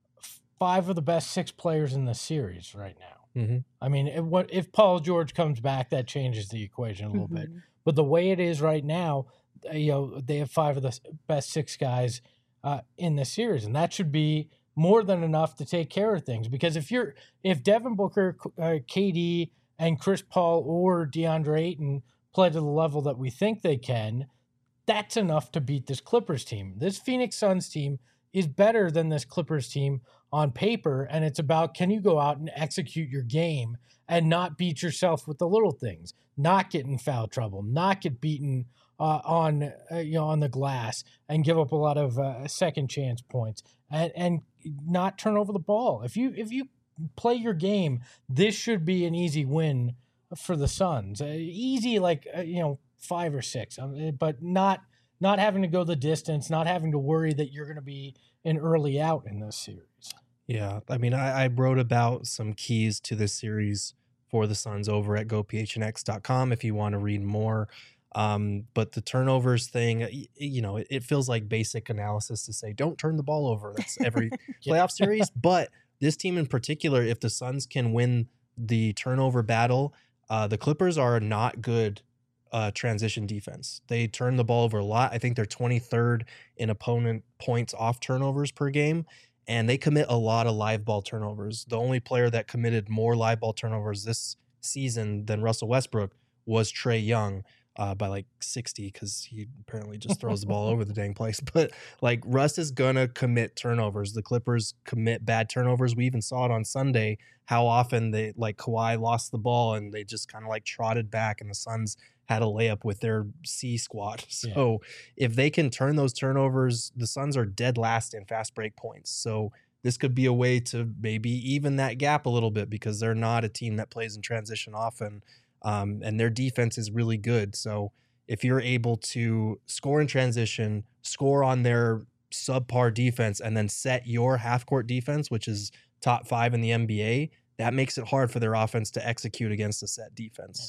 S4: five of the best six players in the series right now.
S3: Mm-hmm.
S4: I mean, if, what if Paul George comes back, that changes the equation a little bit.
S2: Mhm.
S4: But the way it is right now, uh, you know, they have five of the s- best six guys uh, in the series, and that should be more than enough to take care of things. Because if you're if Devin Booker, uh, K D, and Chris Paul or DeAndre Ayton play to the level that we think they can, that's enough to beat this Clippers team. This Phoenix Suns team is better than this Clippers team on paper, and it's about can you go out and execute your game and not beat yourself with the little things, not get in foul trouble, not get beaten uh, on uh, you know on the glass, and give up a lot of uh, second chance points, and and not turn over the ball. If you if you play your game, this should be an easy win for the Suns. Uh, easy like uh, you know five or six, um, but not not having to go the distance, not having to worry that you're going to be an early out in this series.
S3: Yeah, I mean, I, I wrote about some keys to this series for the Suns over at go p h n x dot com if you want to read more. Um, but the turnovers thing, y- you know, it, it feels like basic analysis to say, don't turn the ball over. That's every playoff series. But this team in particular, if the Suns can win the turnover battle, uh, the Clippers are not good uh, transition defense. They turn the ball over a lot. I think they're twenty-third in opponent points off turnovers per game. And they commit a lot of live ball turnovers. The only player that committed more live ball turnovers this season than Russell Westbrook was Trae Young uh, by like sixty because he apparently just throws the ball over the dang place. But like Russ is going to commit turnovers. The Clippers commit bad turnovers. We even saw it on Sunday, how often they like Kawhi lost the ball and they just kind of like trotted back and the Suns had a layup with their C squad. So yeah. If they can turn those turnovers, the Suns are dead last in fast break points. So this could be a way to maybe even that gap a little bit because they're not a team that plays in transition often. Um, and their defense is really good. So if you're able to score in transition, score on their subpar defense, and then set your half court defense, which is top five in the N B A, that makes it hard for their offense to execute against a set defense.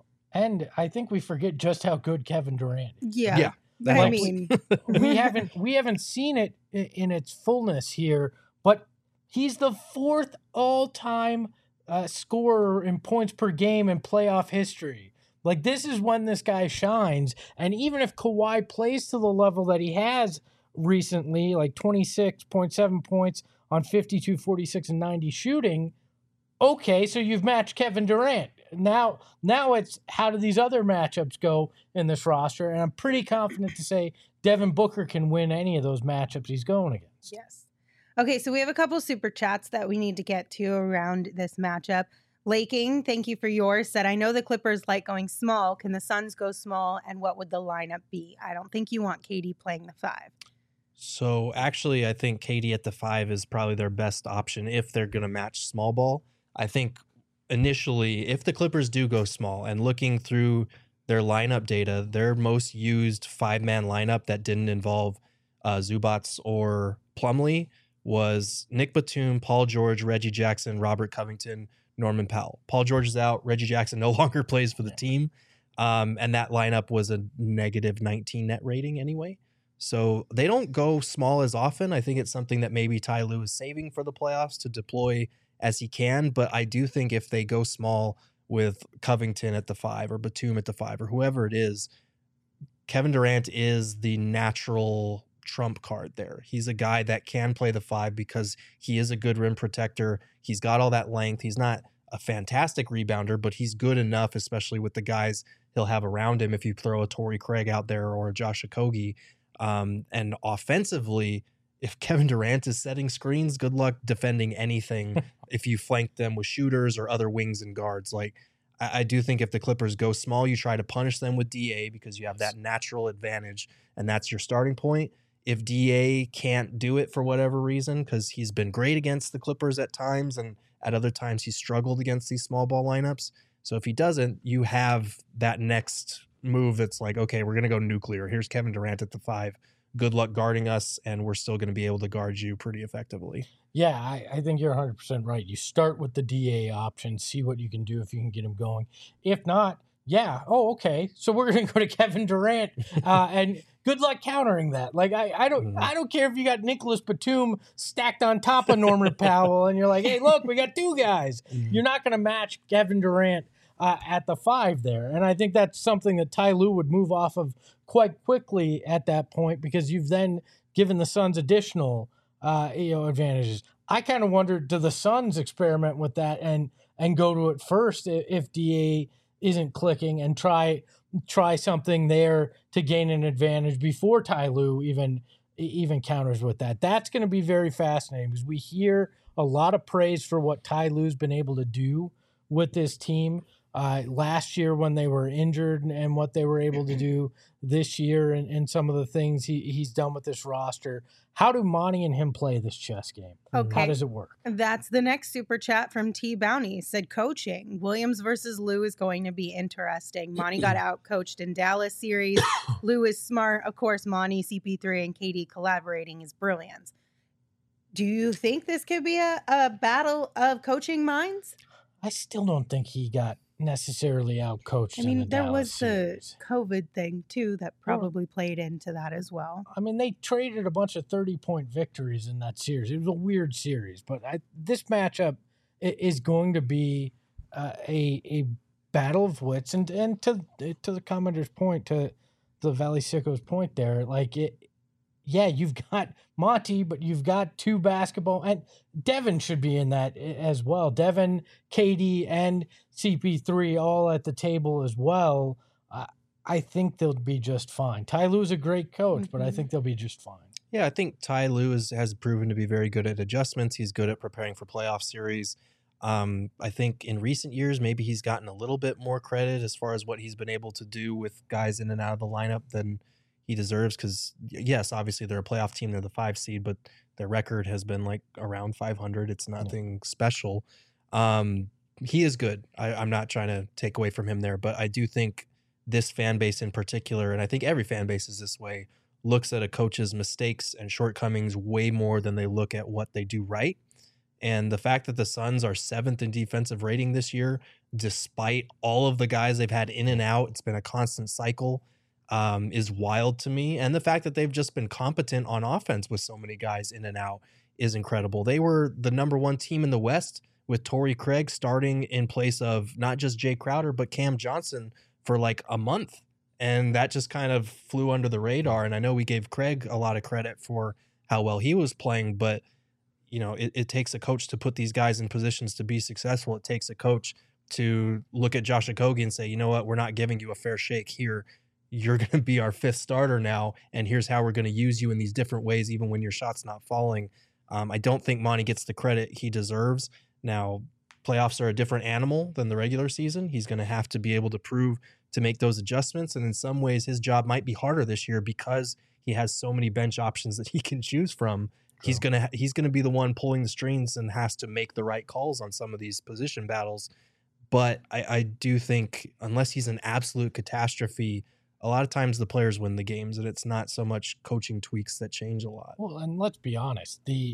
S4: And I think we forget just how good Kevin Durant is.
S2: Yeah.
S3: Yeah.
S2: I
S4: Like,
S2: mean,
S4: we haven't we haven't seen it in, in its fullness here, but he's the fourth all-time uh, scorer in points per game in playoff history. Like this is when this guy shines. And even if Kawhi plays to the level that he has recently, like twenty-six point seven points on fifty-two, forty-six, and ninety shooting, okay, so you've matched Kevin Durant. Now, now it's how do these other matchups go in this roster? And I'm pretty confident to say Devin Booker can win any of those matchups he's going against.
S2: yes. Okay, so we have a couple super chats that we need to get to around this matchup. Laking, thank you for yours, said, I know the Clippers like going small. Can the Suns go small? And what would the lineup be? I don't think you want K D playing the five.
S3: So actually, I think K D at the five is probably their best option if they're going to match small ball. I think initially, if the Clippers do go small and looking through their lineup data, their most used five-man lineup that didn't involve uh, Zubats or Plumlee was Nick Batum, Paul George, Reggie Jackson, Robert Covington, Norman Powell. Paul George is out. Reggie Jackson no longer plays for the team. Um, and that lineup was a negative nineteen net rating anyway. So they don't go small as often. I think it's something that maybe Ty Lue is saving for the playoffs to deploy as he can. But I do think if they go small with Covington at the five or Batum at the five or whoever it is, Kevin Durant is the natural trump card there. He's a guy that can play the five because he is a good rim protector. He's got all that length. He's not a fantastic rebounder, but he's good enough, especially with the guys he'll have around him if you throw a Torrey Craig out there or a Josh Okogie. Um, and offensively, if Kevin Durant is setting screens, good luck defending anything if you flank them with shooters or other wings and guards. Like, I, I do think if the Clippers go small, you try to punish them with D A because you have that natural advantage, and that's your starting point. If D A can't do it for whatever reason, because he's been great against the Clippers at times, and at other times he's struggled against these small ball lineups. So if he doesn't, you have that next move that's like, okay, we're going to go nuclear. Here's Kevin Durant at the five. Good luck guarding us, and we're still going to be able to guard you pretty effectively.
S4: Yeah, I, I think you're one hundred percent right. You start with the D A option, see what you can do if you can get him going. If not, yeah, oh, okay, so we're going to go to Kevin Durant, uh, and good luck countering that. Like, I, I don't I don't care if you got Nicholas Batum stacked on top of Norman Powell, and you're like, hey, look, we got two guys. You're not going to match Kevin Durant Uh, at the five there. And I think that's something that Ty Lue would move off of quite quickly at that point, because you've then given the Suns additional uh, you know, advantages. I kind of wonder, do the Suns experiment with that and and go to it first if D A isn't clicking, and try try something there to gain an advantage before Ty Lue even, even counters with that? That's going to be very fascinating, because we hear a lot of praise for what Ty Lue's been able to do with this team. Uh, last year when they were injured, and, and what they were able to do this year, and, and some of the things he, he's done with this roster. How do Monty and him play this chess game?
S2: Okay.
S4: How does it work?
S2: That's the next super chat from T Bounty. Said coaching. Williams versus Lue is going to be interesting. Monty got out coached in Dallas series. Lue is smart. Of course, Monty, C P three, and K D collaborating is brilliant. Do you think this could be a, a battle of coaching minds?
S4: I still don't think he got necessarily out coached.
S2: I mean,
S4: in the
S2: there
S4: Dallas
S2: was
S4: series.
S2: the COVID thing too that probably played into that as well.
S4: I mean, they traded a bunch of thirty-point victories in that series. It was a weird series, but I, this matchup is going to be uh, a a battle of wits. And and to to the commenter's point, to the Valley Sicko's point there, like it. Yeah, you've got Monty, but you've got two basketball, and Devin should be in that as well. Devin, K D, and C P three all at the table as well. Uh, I think they'll be just fine. Ty Lue's a great coach, mm-hmm. but I think they'll be just fine.
S3: Yeah, I think Ty Lue is, has proven to be very good at adjustments. He's good at preparing for playoff series. Um, I think in recent years, maybe he's gotten a little bit more credit as far as what he's been able to do with guys in and out of the lineup than he deserves, because yes, obviously they're a playoff team, they're the five seed, but their record has been like around five hundred. It's nothing yeah. special. Um, he is good. I, I'm not trying to take away from him there, but I do think this fan base in particular, and I think every fan base is this way, looks at a coach's mistakes and shortcomings way more than they look at what they do right. And the fact that the Suns are seventh in defensive rating this year, despite all of the guys they've had in and out, it's been a constant cycle. Um, is wild to me. And the fact that they've just been competent on offense with so many guys in and out is incredible. They were the number one team in the West with Torrey Craig starting in place of not just Jay Crowder, but Cam Johnson for like a month. And that just kind of flew under the radar. And I know we gave Craig a lot of credit for how well he was playing, but you know, it, it takes a coach to put these guys in positions to be successful. It takes a coach to look at Josh Okogie and say, you know what, we're not giving you a fair shake here. You're going to be our fifth starter now, and here's how we're going to use you in these different ways, even when your shot's not falling. Um, I don't think Monty gets the credit he deserves. Now, playoffs are a different animal than the regular season. He's going to have to be able to prove to make those adjustments, and in some ways, his job might be harder this year because he has so many bench options that he can choose from. Cool. He's going to he's going to be the one pulling the strings and has to make the right calls on some of these position battles. But I, I do think unless he's an absolute catastrophe, a lot of times the players win the games, and it's not so much coaching tweaks that change a lot.
S4: Well, and let's be honest, the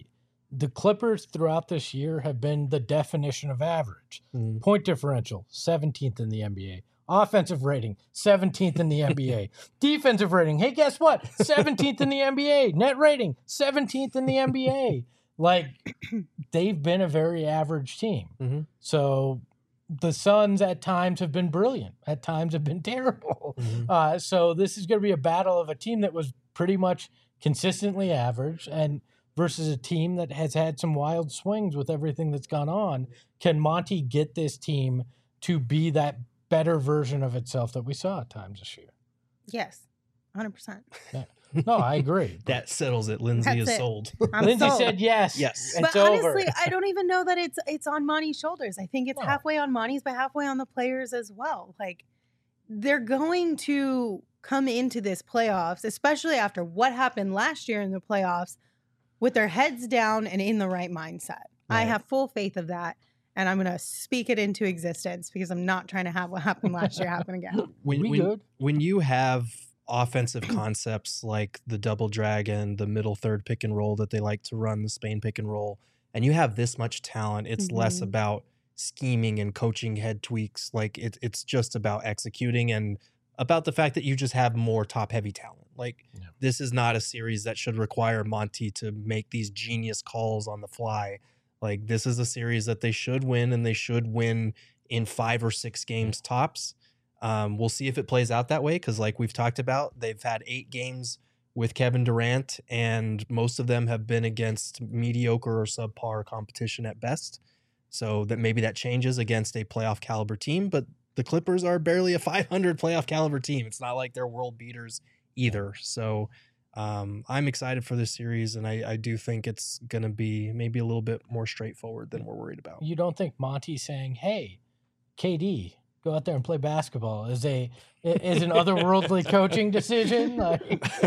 S4: the Clippers throughout this year have been the definition of average.
S3: Mhm.
S4: Point differential, seventeenth in the N B A. Offensive rating, seventeenth in the N B A. Defensive rating, hey, guess what? seventeenth in the N B A. Net rating, seventeenth in the N B A. Like, they've been a very average team.
S3: Mhm.
S4: So the Suns at times have been brilliant, at times have been terrible.
S3: Mhm.
S4: Uh, so this is going to be a battle of a team that was pretty much consistently average and versus a team that has had some wild swings with everything that's gone on. Can Monty get this team to be that better version of itself that we saw at times this year?
S2: Yes, one hundred percent.
S4: No, I agree.
S3: That settles it. Lindsay
S2: That's
S3: is
S2: it.
S3: sold.
S2: I'm
S4: Lindsay
S2: sold.
S4: said yes.
S3: Yes.
S4: It's
S2: But
S4: over.
S2: honestly, I don't even know that it's it's on Monty's shoulders. I think it's
S4: No.
S2: halfway on Monty's, but halfway on the players as well. Like, they're going to come into this playoffs, especially after what happened last year in the playoffs, with their heads down and in the right mindset. I
S3: Right.
S2: have full faith of that, and I'm going to speak it into existence because I'm not trying to have what happened last year happen again.
S3: When,
S4: We
S3: when,
S4: good?
S3: when you have offensive concepts like the double dragon, the middle third pick and roll that they like to run, the Spain pick and roll, and you have this much talent, it's less
S2: Mhm.
S3: about scheming and coaching head tweaks. Like it, it's just about executing and about the fact that you just have more top heavy talent. Like
S4: Yeah.
S3: this is not a series that should require Monty to make these genius calls on the fly. Like this is a series that they should win, and they should win in five or six games tops. Um, we'll see if it plays out that way because, like we've talked about, they've had eight games with Kevin Durant, and most of them have been against mediocre or subpar competition at best. So that maybe that changes against a playoff caliber team, but the Clippers are barely a five hundred playoff caliber team. It's not like they're world beaters either. So um, I'm excited for this series, and I, I do think it's going to be maybe a little bit more straightforward than we're worried about.
S4: You don't think Monty saying, "Hey, K D, go out there and play basketball," is a is an otherworldly coaching decision? Like,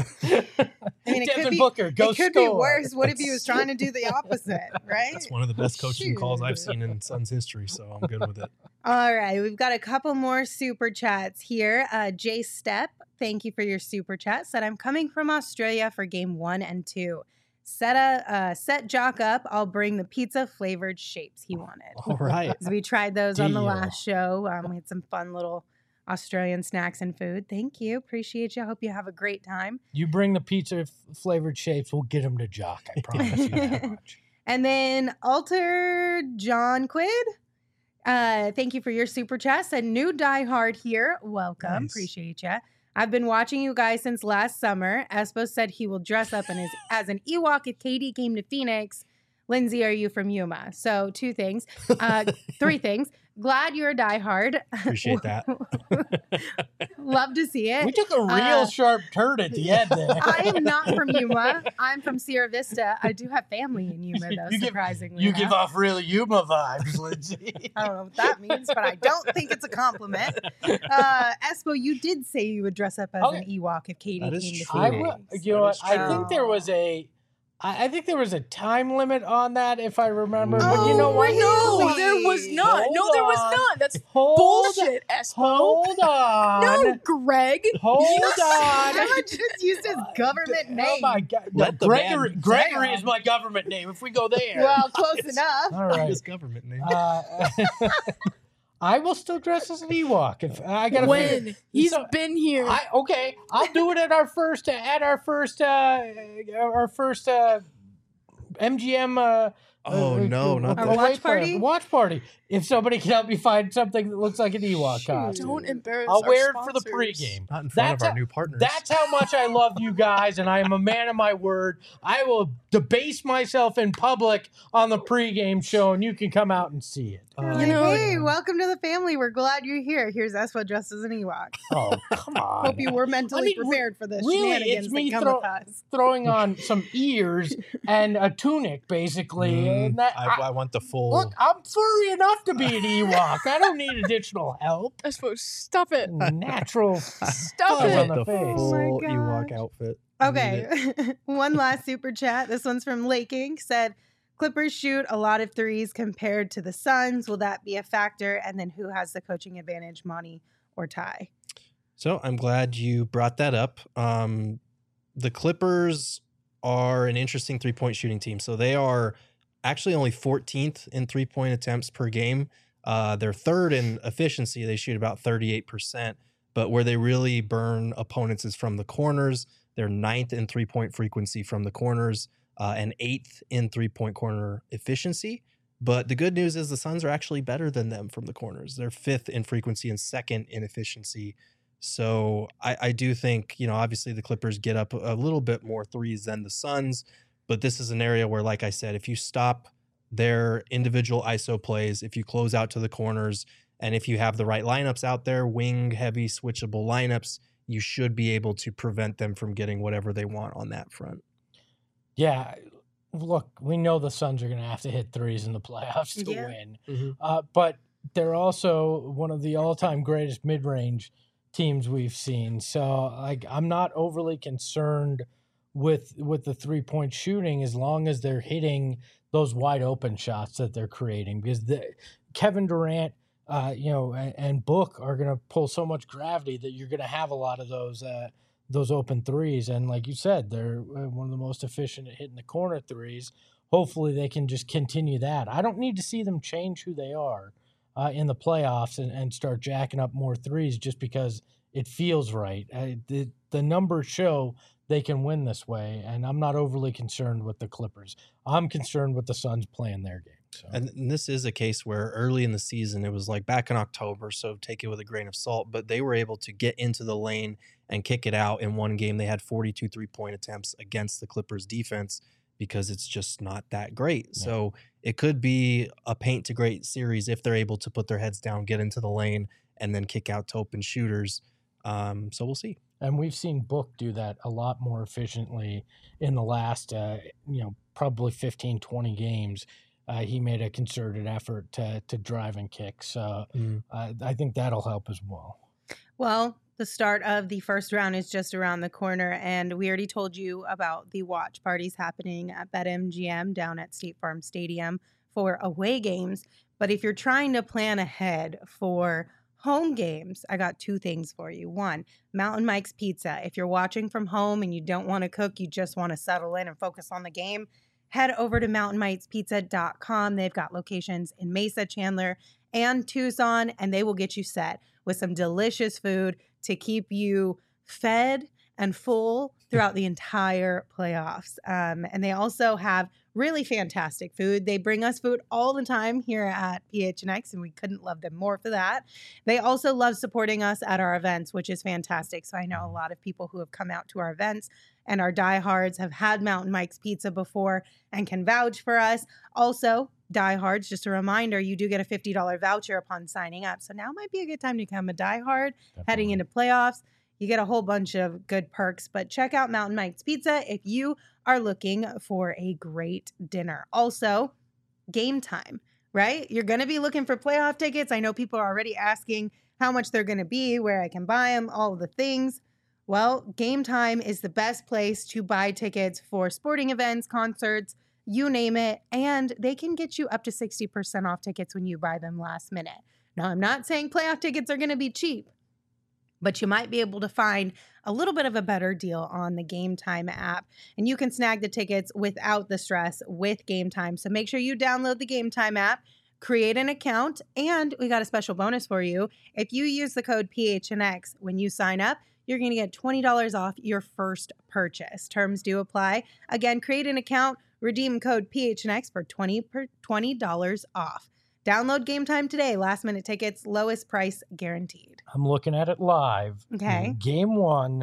S2: I mean, it
S4: Devin
S2: could be,
S4: Booker, go
S2: it could
S4: score.
S2: be worse. What if he was trying to do the opposite, right?
S3: That's one of the best coaching calls I've
S2: Shoot.
S3: seen in Suns history, so I'm good with it.
S2: All right, we've got a couple more super chats here. Uh, Jay Step, thank you for your super chat. Said, I'm coming from Australia for game one and two. Set a uh, set Jock up. I'll bring the pizza flavored shapes he wanted.
S3: All right.
S2: 'Cause we tried those on the
S4: Deal.
S2: last show. Um, we had some fun little Australian snacks and food. Thank you. Appreciate you. Hope you have a great time.
S4: You bring the pizza f- flavored shapes, we'll get them to Jock. I promise you that much.
S2: And then Alter John Quid. Uh, thank you for your super chat. Said new diehard here. Welcome.
S3: Nice.
S2: Appreciate you. I've been watching you guys since last summer. Espo said he will dress up in his, as an Ewok if K D came to Phoenix. Lindsay, are you from Yuma? So two things. Uh, three things. Glad you're a diehard.
S3: Appreciate that.
S2: Love to see it.
S4: We took a real
S2: Uh,
S4: sharp turn at the end there.
S2: I am not from Yuma. I'm from Sierra Vista. I do have family in Yuma, though,
S4: You give-
S2: surprisingly.
S4: You
S2: enough.
S4: give off really Yuma vibes, Lindsay.
S2: I don't know what that means, but I don't think it's a compliment. Uh, Espo, you did say you would dress up as an
S4: Okay.
S2: Ewok if Katie
S3: That is
S2: came to
S3: true.
S4: I
S2: Phoenix.
S4: will, you know
S3: That
S4: what?
S3: is
S4: I think there
S2: true.
S4: was a, I I think there was a time limit on that, if I remember. But you know
S2: Oh,
S4: what?
S1: No, there was not.
S4: Hold
S1: no, there was
S4: on.
S1: not. That's
S4: Hold,
S1: bullshit, Espo.
S4: Hold on.
S1: No, Greg.
S4: Hold
S2: Emma
S4: on.
S2: just used his government name.
S4: Oh my God! No,
S3: Let the
S4: Gregory.
S3: man-
S4: Gregory
S2: Damn.
S4: is my government name. If we go there,
S2: Well, close enough.
S4: all right.
S3: His government name.
S4: Uh, I will still dress as an Ewok if I got to.
S1: When he's
S4: So-
S1: been here.
S4: I okay. I'll do it at our first at our first uh our first uh M G M uh
S3: Oh,
S4: uh,
S3: no, not
S2: Our
S3: that.
S2: watch party?
S4: Watch party. If somebody can help me find something that looks like an Ewok costume.
S1: Don't embarrass
S4: I'll
S1: our
S4: wear it for the
S1: sponsors.
S4: pregame.
S3: Not in front
S4: That's
S3: of our
S4: a-
S3: new partners.
S4: That's how much I love you guys, and I am a man of my word. I will debase myself in public on the pregame show, and you can come out and see it.
S2: You're
S3: Uh,
S2: like,
S1: You know-
S2: hey, welcome to the family. We're glad you're here. Here's Espo dressed as an Ewok.
S4: Oh, come on.
S2: Hope you were mentally
S4: I mean, re-
S2: prepared for this
S4: really,
S2: shenanigans
S4: it's me
S2: that come
S4: throw-
S2: with us.
S4: Throwing on some ears and a tunic, basically.
S3: Mm,
S4: and that,
S3: I,
S4: I-
S3: I want the full.
S4: look, I'm furry enough to be an Ewok. I don't need additional help.
S1: Espo, stop it.
S4: Natural.
S1: Stop
S3: I
S4: Fuzz
S1: it.
S4: on
S3: want
S4: the
S3: the
S4: face.
S3: full
S2: Oh my
S3: Ewok
S2: gosh.
S3: outfit. I need it.
S2: Okay. One last super chat. This one's from Lake Ink. Said, Clippers shoot a lot of threes compared to the Suns. Will that be a factor? And then who has the coaching advantage, Monty or Ty?
S3: So I'm glad you brought that up. Um, the Clippers are an interesting three point shooting team. So they are actually only fourteenth in three-point attempts per game. Uh, they're third in efficiency. They shoot about thirty-eight percent. But where they really burn opponents is from the corners. They're ninth in three-point frequency from the corners uh, and eighth in three-point corner efficiency. But the good news is the Suns are actually better than them from the corners. They're fifth in frequency and second in efficiency. So I, I do think, you know, obviously the Clippers get up a little bit more threes than the Suns. But this is an area where, like I said, if you stop their individual I S O plays, if you close out to the corners, and if you have the right lineups out there, wing heavy switchable lineups, you should be able to prevent them from getting whatever they want on that front.
S4: Yeah. Look, we know the Suns are going to have to hit threes in the playoffs to
S2: Yeah.
S4: win.
S3: Mm-hmm.
S4: Uh, but they're also one of the all-time greatest mid-range teams we've seen. So like, I'm not overly concerned with with the three-point shooting as long as they're hitting those wide open shots that they're creating, because the, Kevin Durant, uh, you know, and, and Book are going to pull so much gravity that you're going to have a lot of those uh, those open threes. And like you said, they're one of the most efficient at hitting the corner threes. Hopefully they can just continue that. I don't need to see them change who they are uh, in the playoffs and, and start jacking up more threes just because it feels right. I, the, the numbers show they can win this way, and I'm not overly concerned with the Clippers. I'm concerned with the Suns playing their game. So.
S3: And, and this is a case where early in the season, it was like back in October, so take it with a grain of salt, but they were able to get into the lane and kick it out in one game. They had forty-two three-point attempts against the Clippers defense because it's just not that great. Yeah. So it could be a paint to great series if they're able to put their heads down, get into the lane, and then kick out to open shooters. Um, so we'll see.
S4: And we've seen Book do that a lot more efficiently in the last, uh, you know, probably fifteen, twenty games. Uh, he made a concerted effort to to drive and kick. So mm. uh, I think that'll help as well.
S2: Well, the start of the first round is just around the corner, and we already told you about the watch parties happening at BetMGM down at State Farm Stadium for away games. But if you're trying to plan ahead for home games, I got two things for you. One, Mountain Mike's Pizza. If you're watching from home and you don't want to cook, you just want to settle in and focus on the game, head over to mountain mikes pizza dot com. They've got locations in Mesa, Chandler, and Tucson, and they will get you set with some delicious food to keep you fed and full throughout the entire playoffs. Um, and they also have really fantastic food. They bring us food all the time here at P H N X, and we couldn't love them more for that. They also love supporting us at our events, which is fantastic. So I know a lot of people who have come out to our events and our diehards have had Mountain Mike's Pizza before and can vouch for us. Also, diehards, just a reminder, you do get a fifty dollars voucher upon signing up. So now might be a good time to become a diehard. Definitely. Heading into playoffs. You get a whole bunch of good perks, but check out Mountain Mike's Pizza if you are looking for a great dinner. Also, Game Time, right? You're going to be looking for playoff tickets. I know people are already asking how much they're going to be, where I can buy them, all of the things. Well, Game Time is the best place to buy tickets for sporting events, concerts, you name it, and they can get you up to sixty percent off tickets when you buy them last minute. Now, I'm not saying playoff tickets are going to be cheap, but you might be able to find a little bit of a better deal on the Game Time app. And you can snag the tickets without the stress with Game Time. So make sure you download the Game Time app, create an account, and we got a special bonus for you. If you use the code P H N X when you sign up, you're going to get twenty dollars off your first purchase. Terms do apply. Again, create an account, redeem code P H N X for twenty dollars off. Download Game Time today. Last minute tickets, lowest price guaranteed.
S4: I'm looking at it live.
S2: Okay.
S4: Game one,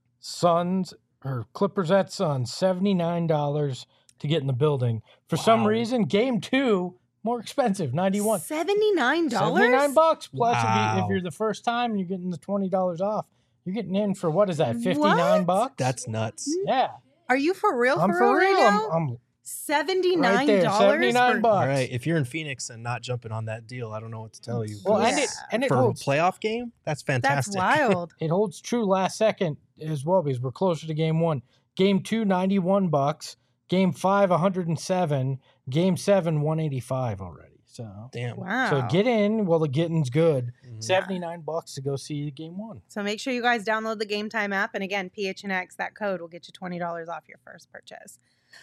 S4: Suns or Clippers at Suns, seventy-nine dollars to get in the building. For wow. some reason, game two, more expensive, ninety-one dollars.
S2: seventy-nine dollars?
S4: seventy-nine bucks. Plus,
S3: wow.
S4: if, you, if you're the first time, you're getting the twenty dollars off. You're getting in for, what is that, fifty-nine bucks?
S3: That's nuts.
S4: Yeah.
S2: Are you for real?
S4: I'm
S2: for,
S4: for
S2: real,
S4: real.
S2: right now?
S4: I'm, I'm
S2: seventy-nine dollars?
S4: Right there, seventy-nine
S2: for-
S4: bucks.
S3: All right. If you're in Phoenix and not jumping on that deal, I don't know what to tell you.
S4: Well,
S2: Yeah.
S4: and it, and it
S3: For
S4: holds,
S3: a playoff game, that's fantastic.
S2: That's wild.
S4: it holds true last second as well because we're closer to game one. Game two, ninety-one bucks. Game five, one hundred seven. Game seven, one eighty-five already. So
S3: Damn.
S2: Wow.
S4: So get in while the getting's good.
S3: Mhm.
S4: seventy-nine bucks to go see game one.
S2: So make sure you guys download the Game Time app. And again, P H N X, that code will get you twenty dollars off your first purchase.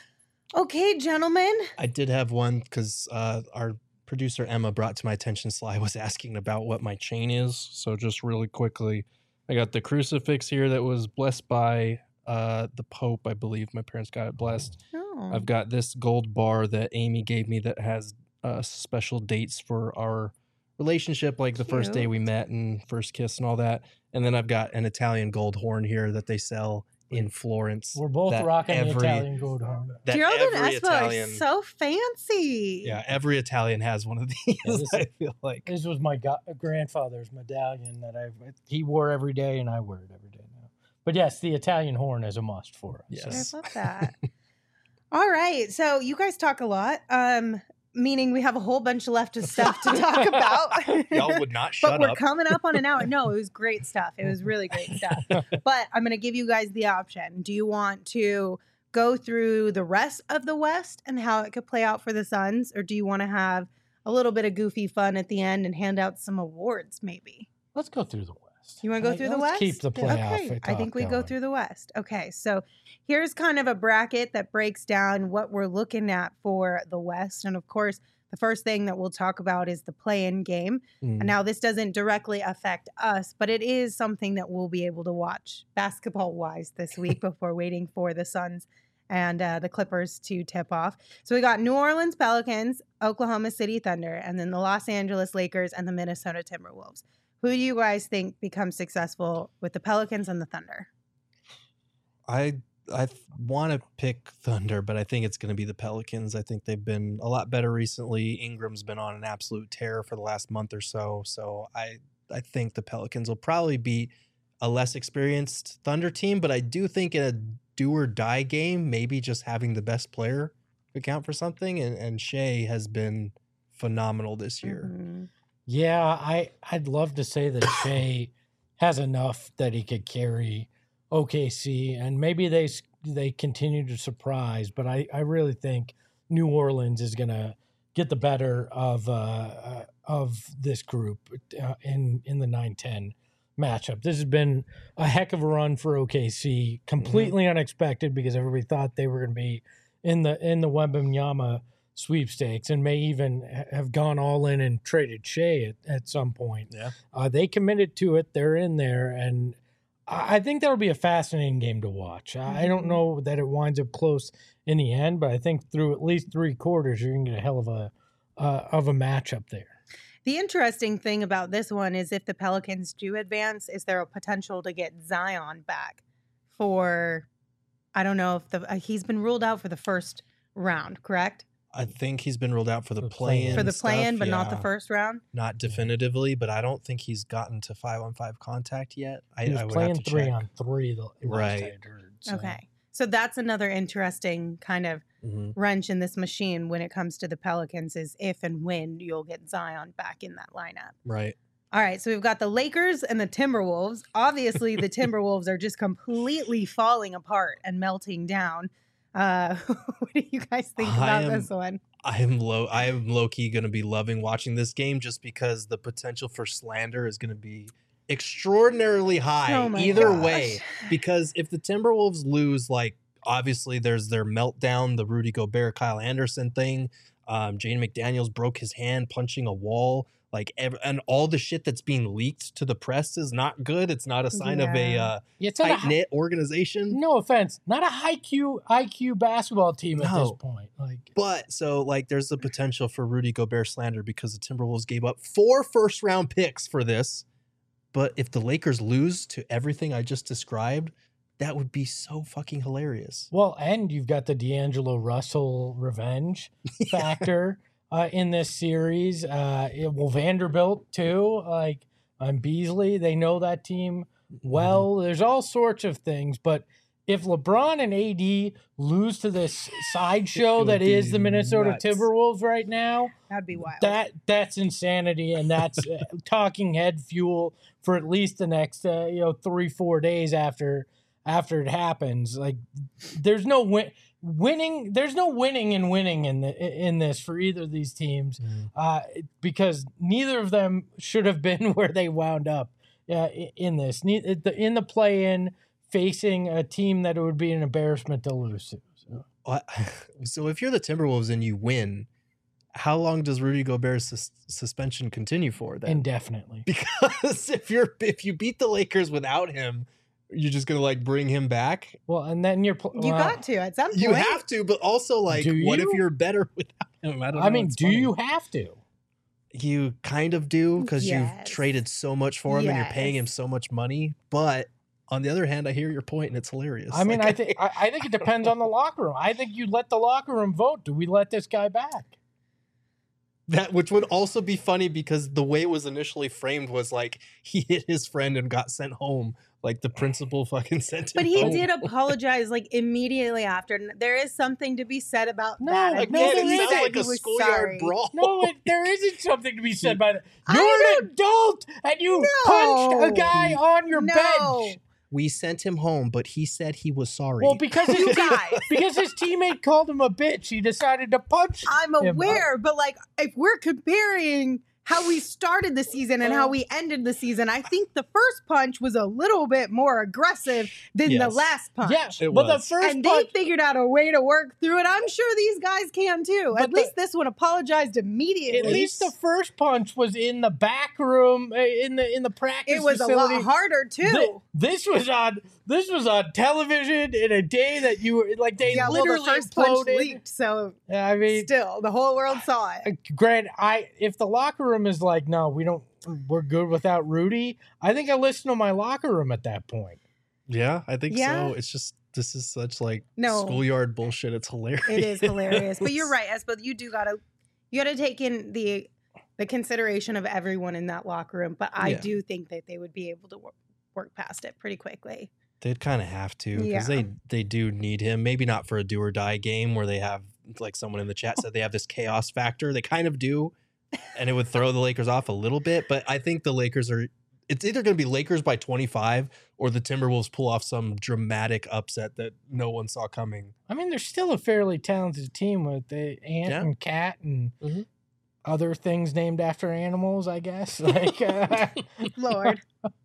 S2: Okay, gentlemen.
S3: I did have one because uh, our producer Emma brought to my attention Sly was asking about what my chain is. So just really quickly, I got the crucifix here that was blessed by uh, the Pope. I believe my parents got it blessed.
S2: Oh.
S3: I've got this gold bar that Amy gave me that has uh, special dates for our relationship, like the first day
S2: Cute.
S3: we met and first kiss and all that. And then I've got an Italian gold horn here that they sell in Florence.
S4: We're both
S3: that
S4: rocking the
S3: every-
S4: Italian gold horn.
S3: That
S2: Gerald and
S3: every
S2: Espo are
S3: Italian,
S2: so fancy.
S3: yeah, every Italian has one of these.
S4: Yeah, this
S3: I
S4: is-
S3: feel like.
S4: This was my go- grandfather's medallion that I he wore every day, and I wear it every day now. But yes, the Italian horn is a must for us.
S3: Yes.
S2: I love that. All right. So you guys talk a lot, um, meaning we have a whole bunch left of stuff to talk about.
S3: Y'all would not
S2: But
S3: shut
S2: we're
S3: up.
S2: coming up on an hour. No, it was great stuff. It was really great stuff. But I'm going to give you guys the option. Do you want to go through the rest of the West and how it could play out for the Suns? Or do you want to have a little bit of goofy fun at the end and hand out some awards maybe?
S4: Let's go through the West.
S2: You want to go
S4: Like,
S2: through the
S4: let's
S2: West?
S4: Keep the playoff.
S2: Okay, I think
S4: talk
S2: we go
S4: going.
S2: through the West. Okay, so here's kind of a bracket that breaks down what we're looking at for the West. And of course, the first thing that we'll talk about is the play-in game.
S3: Mm.
S2: And now this doesn't directly affect us, but it is something that we'll be able to watch basketball-wise this week before waiting for the Suns and uh, the Clippers to tip off. So we got New Orleans Pelicans, Oklahoma City Thunder, and then the Los Angeles Lakers and the Minnesota Timberwolves. Who do you guys think becomes successful with the Pelicans and the Thunder?
S3: I I want to pick Thunder, but I think it's going to be the Pelicans. I think they've been a lot better recently. Ingram's been on an absolute tear for the last month or so. So I I think the Pelicans will probably beat a less experienced Thunder team, but I do think in a do or die game, maybe just having the best player could count for something. And, and Shea has been phenomenal this year.
S2: Mhm.
S4: Yeah, I I'd love to say that Shea has enough that he could carry O K C, and maybe they s- they continue to surprise. But I, I really think New Orleans is gonna get the better of uh, uh, of this group uh, in in the nine ten matchup. This has been a heck of a run for O K C, completely unexpected because everybody thought they were going to be in the in the Wembanyama sweepstakes and may even ha- have gone all in and traded Shea at, at some point.
S3: Yeah.
S4: Uh, they committed to it. They're in there, and I I think that'll be a fascinating game to watch. I I don't
S2: Mhm.
S4: know that it winds up close in the end, but I think through at least three quarters, you're going to get a hell of a uh, of a matchup there.
S2: The interesting thing about this one is if the Pelicans do advance, is there a potential to get Zion back for, I don't know if the, uh, he's been ruled out for the first round, correct?
S3: I think he's been ruled out for the
S4: For
S3: play-in.
S2: For the play-in,
S3: stuff,
S2: but not the
S3: yeah.
S2: first round?
S3: Not definitively, but I don't think he's gotten to five on five contact yet. I,
S4: He was
S3: I would
S4: playing
S3: have to
S4: three
S3: check.
S4: on three the last
S3: Right.
S4: I had heard. So.
S2: Okay. So that's another interesting kind of
S3: Mhm.
S2: wrench in this machine when it comes to the Pelicans is if and when you'll get Zion back in that lineup.
S3: Right.
S2: All right, so we've got the Lakers and the Timberwolves. Obviously, the Timberwolves are just completely falling apart and melting down. Uh, what do you guys think
S3: I
S2: about
S3: am-
S2: this one?
S3: I am low. I am low key going to be loving watching this game just because the potential for slander is going to be extraordinarily high
S2: Oh my
S3: either
S2: gosh.
S3: way. Because if the Timberwolves lose, like obviously there's their meltdown, the Rudy Gobert, Kyle Anderson thing. Um, Jane McDaniels broke his hand punching a wall. Like ev- and all the shit that's being leaked to the press is not good. It's not a sign of a
S2: Yeah.
S3: uh,
S4: Yeah, it's not a
S3: tight
S4: hi-
S3: knit organization.
S4: no offense, not a high Q I Q basketball team at this
S3: No.
S4: point. Like
S3: But so like there's the potential for Rudy Gobert slander because the Timberwolves gave up four first round picks for this. But if the Lakers lose to everything I just described, that would be so fucking hilarious.
S4: Well, and you've got the D'Angelo Russell revenge factor uh, in this series. Uh, it- well, Vanderbilt too, like um, Beasley, they know that team well. There's all sorts of things, but if LeBron and A D lose to this sideshow
S3: It
S4: that
S3: would
S4: is
S3: be
S4: the Minnesota
S3: nuts.
S4: Timberwolves right now,
S2: That'd be wild.
S4: that that's insanity, and that's uh, talking head fuel for at least the next uh, you know three four days after after it happens. Like there's no win winning. There's no winning and winning in the in this for either of these teams
S3: Mhm.
S4: uh, because neither of them should have been where they wound up uh, i- in this. Ne- the- In the play-in, facing a team that it would be an embarrassment to lose to. So.
S3: What? So if you're the Timberwolves and you win, how long does Rudy Gobert's sus- suspension continue for then?
S4: Indefinitely.
S3: Because if you're if you beat the Lakers without him, you're just gonna like bring him back.
S4: Well, and then you're pl-
S2: You
S4: well,
S2: got to at some point.
S3: You have to, but also like,
S4: Do
S3: what if
S4: you?
S3: you're better without him? I don't know.
S4: I mean,
S3: It's
S4: do
S3: funny.
S4: you have to?
S3: You kind of do because you've
S2: Yes.
S3: traded so much for him and you're paying him
S2: Yes.
S3: so much money. But on the other hand, I hear your point and it's hilarious.
S4: I mean,
S3: Like,
S4: I think I, I think it depends on the locker room. I think you let the locker room vote. Do we let this guy back?
S3: that, which would also be funny because the way it was initially framed was like he hit his friend and got sent home. Like the principal fucking sent him
S2: But he
S3: home.
S2: did apologize like immediately after. And there is something to be said about
S4: No,
S2: that.
S4: like,
S2: I
S4: no,
S2: think
S4: there
S2: he
S4: isn't.
S2: said
S3: like
S2: he
S3: a
S2: was
S3: schoolyard
S2: sorry.
S3: brawl.
S4: No, it, there isn't something to be said by that.
S2: I
S4: You're an adult and you punched
S2: No.
S4: a guy on your
S2: No.
S4: bench.
S3: We sent him home, but he said he was sorry.
S4: Well, because his
S2: You
S4: team,
S2: guys.
S4: because his teammate called him a bitch, he decided to punch.
S2: I'm
S4: him.
S2: aware, but like if we're comparing how we started the season and how we ended the season, I think the first punch was a little bit more aggressive than the
S3: Yes.
S2: last punch.
S4: Yeah,
S3: It
S4: but
S3: was.
S4: the first
S2: And
S4: punch,
S2: they figured out a way to work through it. I'm sure these guys can too.
S4: But
S2: At
S4: the-
S2: least this one apologized immediately.
S4: at least the first punch was in the back room, uh, in the in the practice
S2: it was
S4: facility.
S2: a lot harder too.
S4: Th- This was on this was on television in a day that you were like they
S2: yeah, well,
S4: literally
S2: the first punch
S4: imploded.
S2: leaked, so
S4: I mean,
S2: still the whole world saw it.
S4: Uh, Grant, I if the locker room is like, no, we don't, we're good without Rudy. I think I listen to my locker room at that point.
S3: yeah, I think
S2: Yeah.
S3: so. It's just this is such like
S2: No.
S3: schoolyard bullshit. It's hilarious.
S2: It is hilarious, but you're right, Espo. You do gotta you gotta take in the the consideration of everyone in that locker room. But I
S3: Yeah.
S2: do think that they would be able to work, work past it pretty quickly.
S3: They'd kind of have to because
S2: Yeah.
S3: they they do need him. Maybe not for a do or die game where they have like someone in the chat said they have this chaos factor. They kind of do, and it would throw the Lakers off a little bit. But I think the Lakers are. It's either going to be Lakers by twenty-five or the Timberwolves pull off some dramatic upset that no one saw coming.
S4: I mean, they're still a fairly talented team with the Ant
S3: Yeah.
S4: and Cat and
S3: Mhm.
S4: other things named after animals, I guess. Like, uh,
S2: Lord.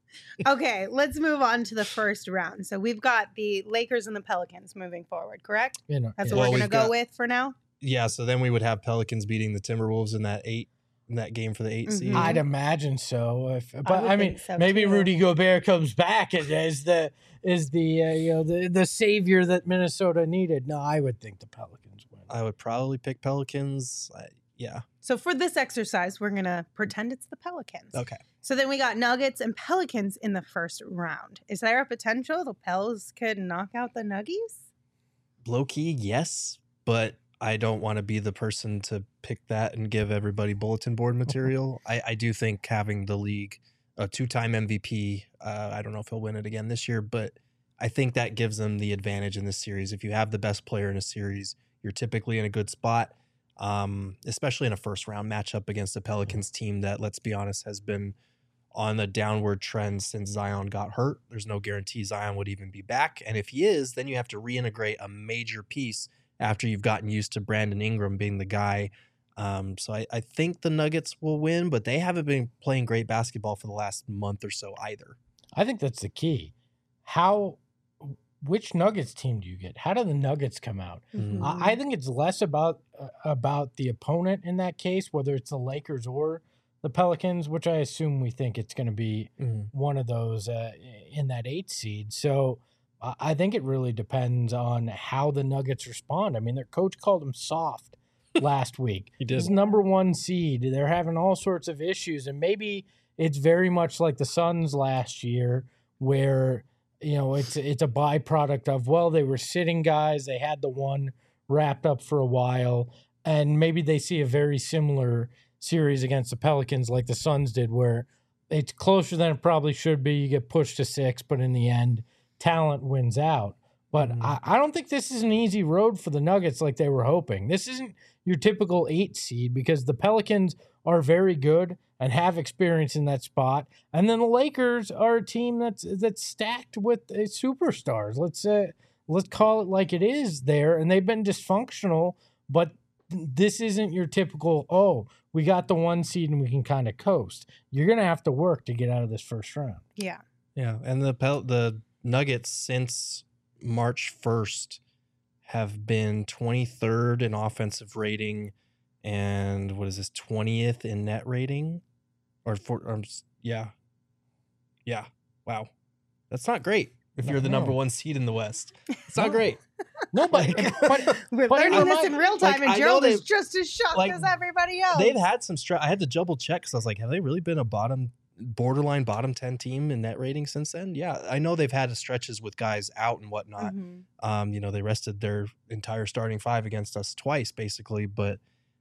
S2: Okay, let's move on to the first round. So we've got the Lakers and the Pelicans moving forward, correct?
S4: you know,
S2: That's
S4: yeah.
S2: what
S3: Well,
S2: we're gonna
S3: we've
S2: go
S3: got-
S2: with for now.
S3: Yeah, so then we would have Pelicans beating the Timberwolves in that eight in that game for the 8
S2: Mhm.
S3: seed.
S4: I'd imagine so. If, but I,
S2: would
S4: mean,
S2: think so,
S4: maybe
S2: too.
S4: Rudy Gobert comes back as, as the is the uh, you know the the savior that Minnesota needed. No, I would think the Pelicans win.
S3: I would probably pick Pelicans. I, yeah.
S2: So for this exercise, we're gonna pretend it's the Pelicans.
S3: Okay.
S2: So then we got Nuggets and Pelicans in the first round. Is there a potential the Pels could knock out the Nuggies?
S3: Low key, yes, but I don't want to be the person to pick that and give everybody bulletin board material. I, I do think having the league a two-time M V P, uh, I don't know if he'll win it again this year, but I think that gives them the advantage in this series. If you have the best player in a series, you're typically in a good spot, um, especially in a first-round matchup against a Pelicans team that, let's be honest, has been on the downward trend since Zion got hurt. There's no guarantee Zion would even be back. And if he is, then you have to reintegrate a major piece after you've gotten used to Brandon Ingram being the guy. Um, so I, I think the Nuggets will win, but they haven't been playing great basketball for the last month or so either.
S4: I think that's the key. How, which Nuggets team do you get? How do the Nuggets come out?
S3: Mhm.
S4: I, I think it's less about uh, about the opponent in that case, whether it's the Lakers or the Pelicans, which I assume we think it's going to be one of those uh, in that eight seed. So I I think it really depends on how the Nuggets respond. I mean, their coach called them soft last week.
S3: He did.
S4: This number one seed. They're having all sorts of issues, and maybe it's very much like the Suns last year, where you know it's it's a byproduct of, well, they were sitting guys, they had the one wrapped up for a while, and maybe they see a very similar series against the Pelicans like the Suns did, where it's closer than it probably should be. You get pushed to six, but in the end, talent wins out. But
S3: Mhm.
S4: I, I don't think this is an easy road for the Nuggets like they were hoping. This isn't your typical eight seed because the Pelicans are very good and have experience in that spot. And then the Lakers are a team that's that's stacked with uh, superstars. Let's uh, let's call it like it is there. And they've been dysfunctional, but this isn't your typical, oh, we got the one seed and we can kind of coast. You're going to have to work to get out of this first round.
S2: Yeah.
S3: Yeah, and the Pel- the Nuggets since March first have been twenty-third in offensive rating and what is this, twentieth in net rating? Or, for, or yeah. Yeah. Wow. That's not great if
S4: No,
S3: you're the number
S4: no.
S3: one seed in the West. It's not
S4: No.
S3: great.
S4: No, but, but
S2: We're
S4: But
S2: learning
S4: I'm
S2: this
S4: not-
S2: in real time,
S3: like,
S2: and
S3: I know
S2: Gerald is
S3: they've-
S2: just as shocked
S3: like,
S2: as everybody else.
S3: They've had some stress. I had to double check because I was like, have they really been a bottom, borderline bottom ten team in net rating since then? Yeah, I know they've had stretches with guys out and whatnot.
S2: Mhm.
S3: Um, you know, they rested their entire starting five against us twice, basically, but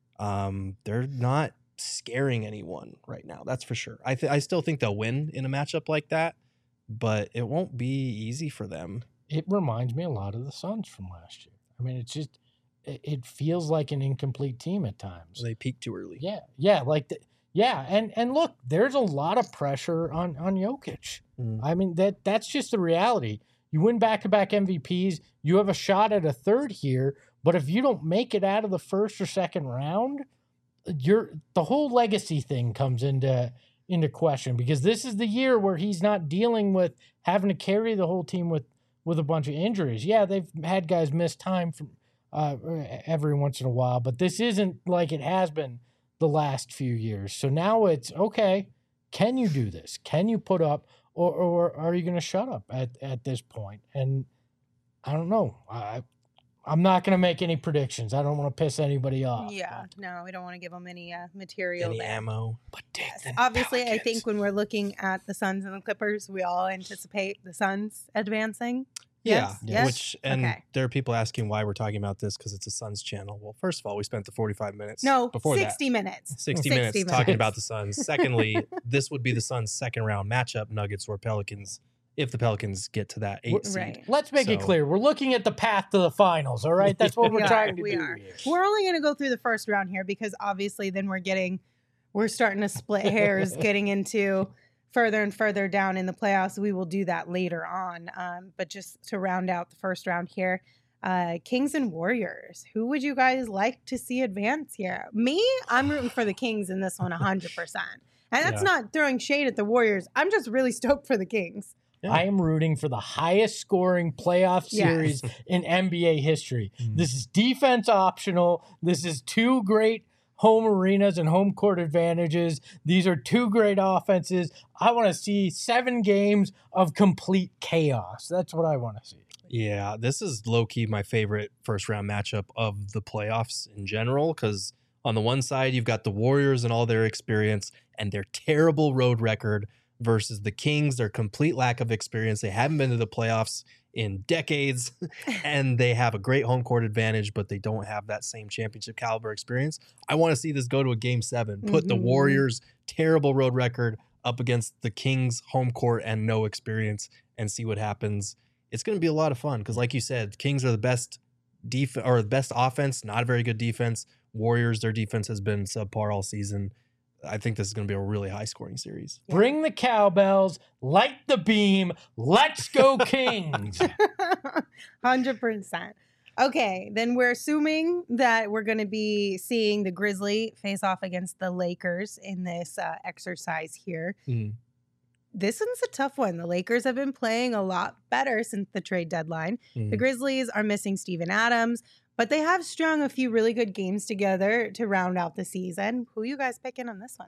S3: um, they're not scaring anyone right now. That's for sure. I th- I still think they'll win in a matchup like that, but it won't be easy for them.
S4: it reminds me a lot of the Suns from last year. I mean, it's just it, it feels like an incomplete team at times.
S3: They peaked too early.
S4: Yeah, yeah, like the, yeah, and and look, there's a lot of pressure on on Jokic.
S3: Mm.
S4: I mean that that's just the reality. You win back to back M V Ps, you have a shot at a third here, but if you don't make it out of the first or second round, you're the whole legacy thing comes into into question because this is the year where he's not dealing with having to carry the whole team with with a bunch of injuries. Yeah, they've had guys miss time from uh, every once in a while, but this isn't like it has been the last few years. So now it's okay. Can you do this? Can you put up, or or are you going to shut up at at this point? And I don't know. I I'm not going to make any predictions. I don't want to piss anybody off.
S2: Yeah,
S4: but-
S2: no, we don't want to give them any uh, material
S3: Any
S2: there.
S3: ammo. But take
S2: Yes.
S3: the
S2: Obviously, I
S3: Pelicans.
S2: think when we're looking at the Suns and the Clippers, we all anticipate the Suns advancing.
S3: Yeah,
S2: Yes? Yes?
S3: which and
S2: Okay.
S3: there are people asking why we're talking about this because it's a Suns channel. Well, first of all, we spent the forty-five minutes
S2: No,
S3: before
S2: sixty minutes.
S3: that. sixty,
S2: sixty
S3: minutes,
S2: minutes.
S3: talking about the Suns. Secondly, this would be the Suns' second round matchup, Nuggets or Pelicans, if the Pelicans get to that eight seed.
S2: Right.
S4: Let's make it
S3: So-
S4: clear. We're looking at the path to the finals, all right? That's what
S2: We
S4: we're
S2: are,
S4: trying to
S2: we
S4: do
S2: are.
S4: here.
S2: We're only going to go through the first round here because obviously then we're getting, we're starting to split hairs getting into further and further down in the playoffs. We will do that later on. Um, but just to round out the first round here, uh, Kings and Warriors. Who would you guys like to see advance here? Me, I'm rooting for the Kings in this one one hundred percent. And that's
S3: Yeah.
S2: not throwing shade at the Warriors. I'm just really stoked for the Kings.
S3: Yeah.
S4: I am rooting for the highest scoring playoff
S2: Yes.
S4: series in N B A history.
S3: Mm.
S4: This is defense optional. This is two great home arenas and home court advantages. These are two great offenses. I want to see seven games of complete chaos. That's what I want to see.
S3: Yeah, this is low key my favorite first round matchup of the playoffs in general because on the one side, you've got the Warriors and all their experience and their terrible road record versus the Kings, their complete lack of experience. They haven't been to the playoffs in decades and they have a great home court advantage, but they don't have that same championship caliber experience. I want to see this go to a game seven, put the
S2: Mhm.
S3: Warriors' terrible road record up against the Kings' home court and no experience and see what happens. It's going to be a lot of fun because, like you said, Kings are the best def- or the best offense, not a very good defense. Warriors, their defense has been subpar all season. I think this is going to be a really high scoring series.
S4: Bring the cowbells, light the beam. Let's go, Kings.
S2: one hundred percent. Okay, then we're assuming that we're going to be seeing the Grizzly face off against the Lakers in this uh, exercise here.
S3: Mm.
S2: This one's a tough one. The Lakers have been playing a lot better since the trade deadline.
S3: Mm.
S2: The Grizzlies are missing Steven Adams, but they have strung a few really good games together to round out the season. Who you guys picking on this one?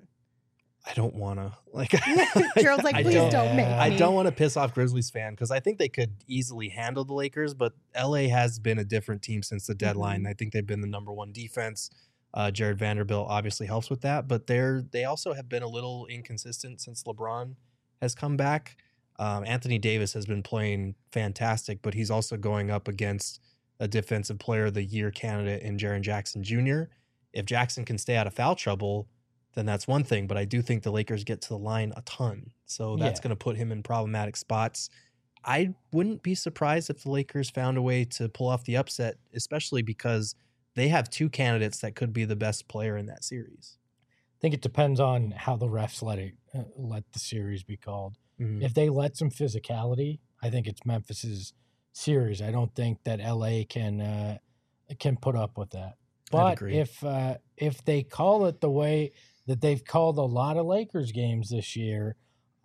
S3: I don't want to like.
S2: Gerald's like,
S3: I
S2: please
S3: don't-
S2: don't, make
S3: I
S2: me.
S3: don't want to piss off Grizzlies fan because I think they could easily handle the Lakers, but L A has been a different team since the deadline.
S2: Mhm.
S3: I think they've been the number one defense. Uh, Jared Vanderbilt obviously helps with that, but they're they also have been a little inconsistent since LeBron has come back. Um, Anthony Davis has been playing fantastic, but he's also going up against a defensive player of the year candidate in Jaren Jackson Junior If Jackson can stay out of foul trouble, then that's one thing. But I do think the Lakers get to the line a ton. So that's
S4: Yeah.
S3: going to put him in problematic spots. I wouldn't be surprised if the Lakers found a way to pull off the upset, especially because they have two candidates that could be the best player in that series.
S4: I think it depends on how the refs let it uh, let the series be called.
S3: Mhm.
S4: If they let some physicality, I think it's Memphis's series. I don't think that L A can uh, can put up with that. But
S3: agree.
S4: if uh, if they call it the way that they've called a lot of Lakers games this year,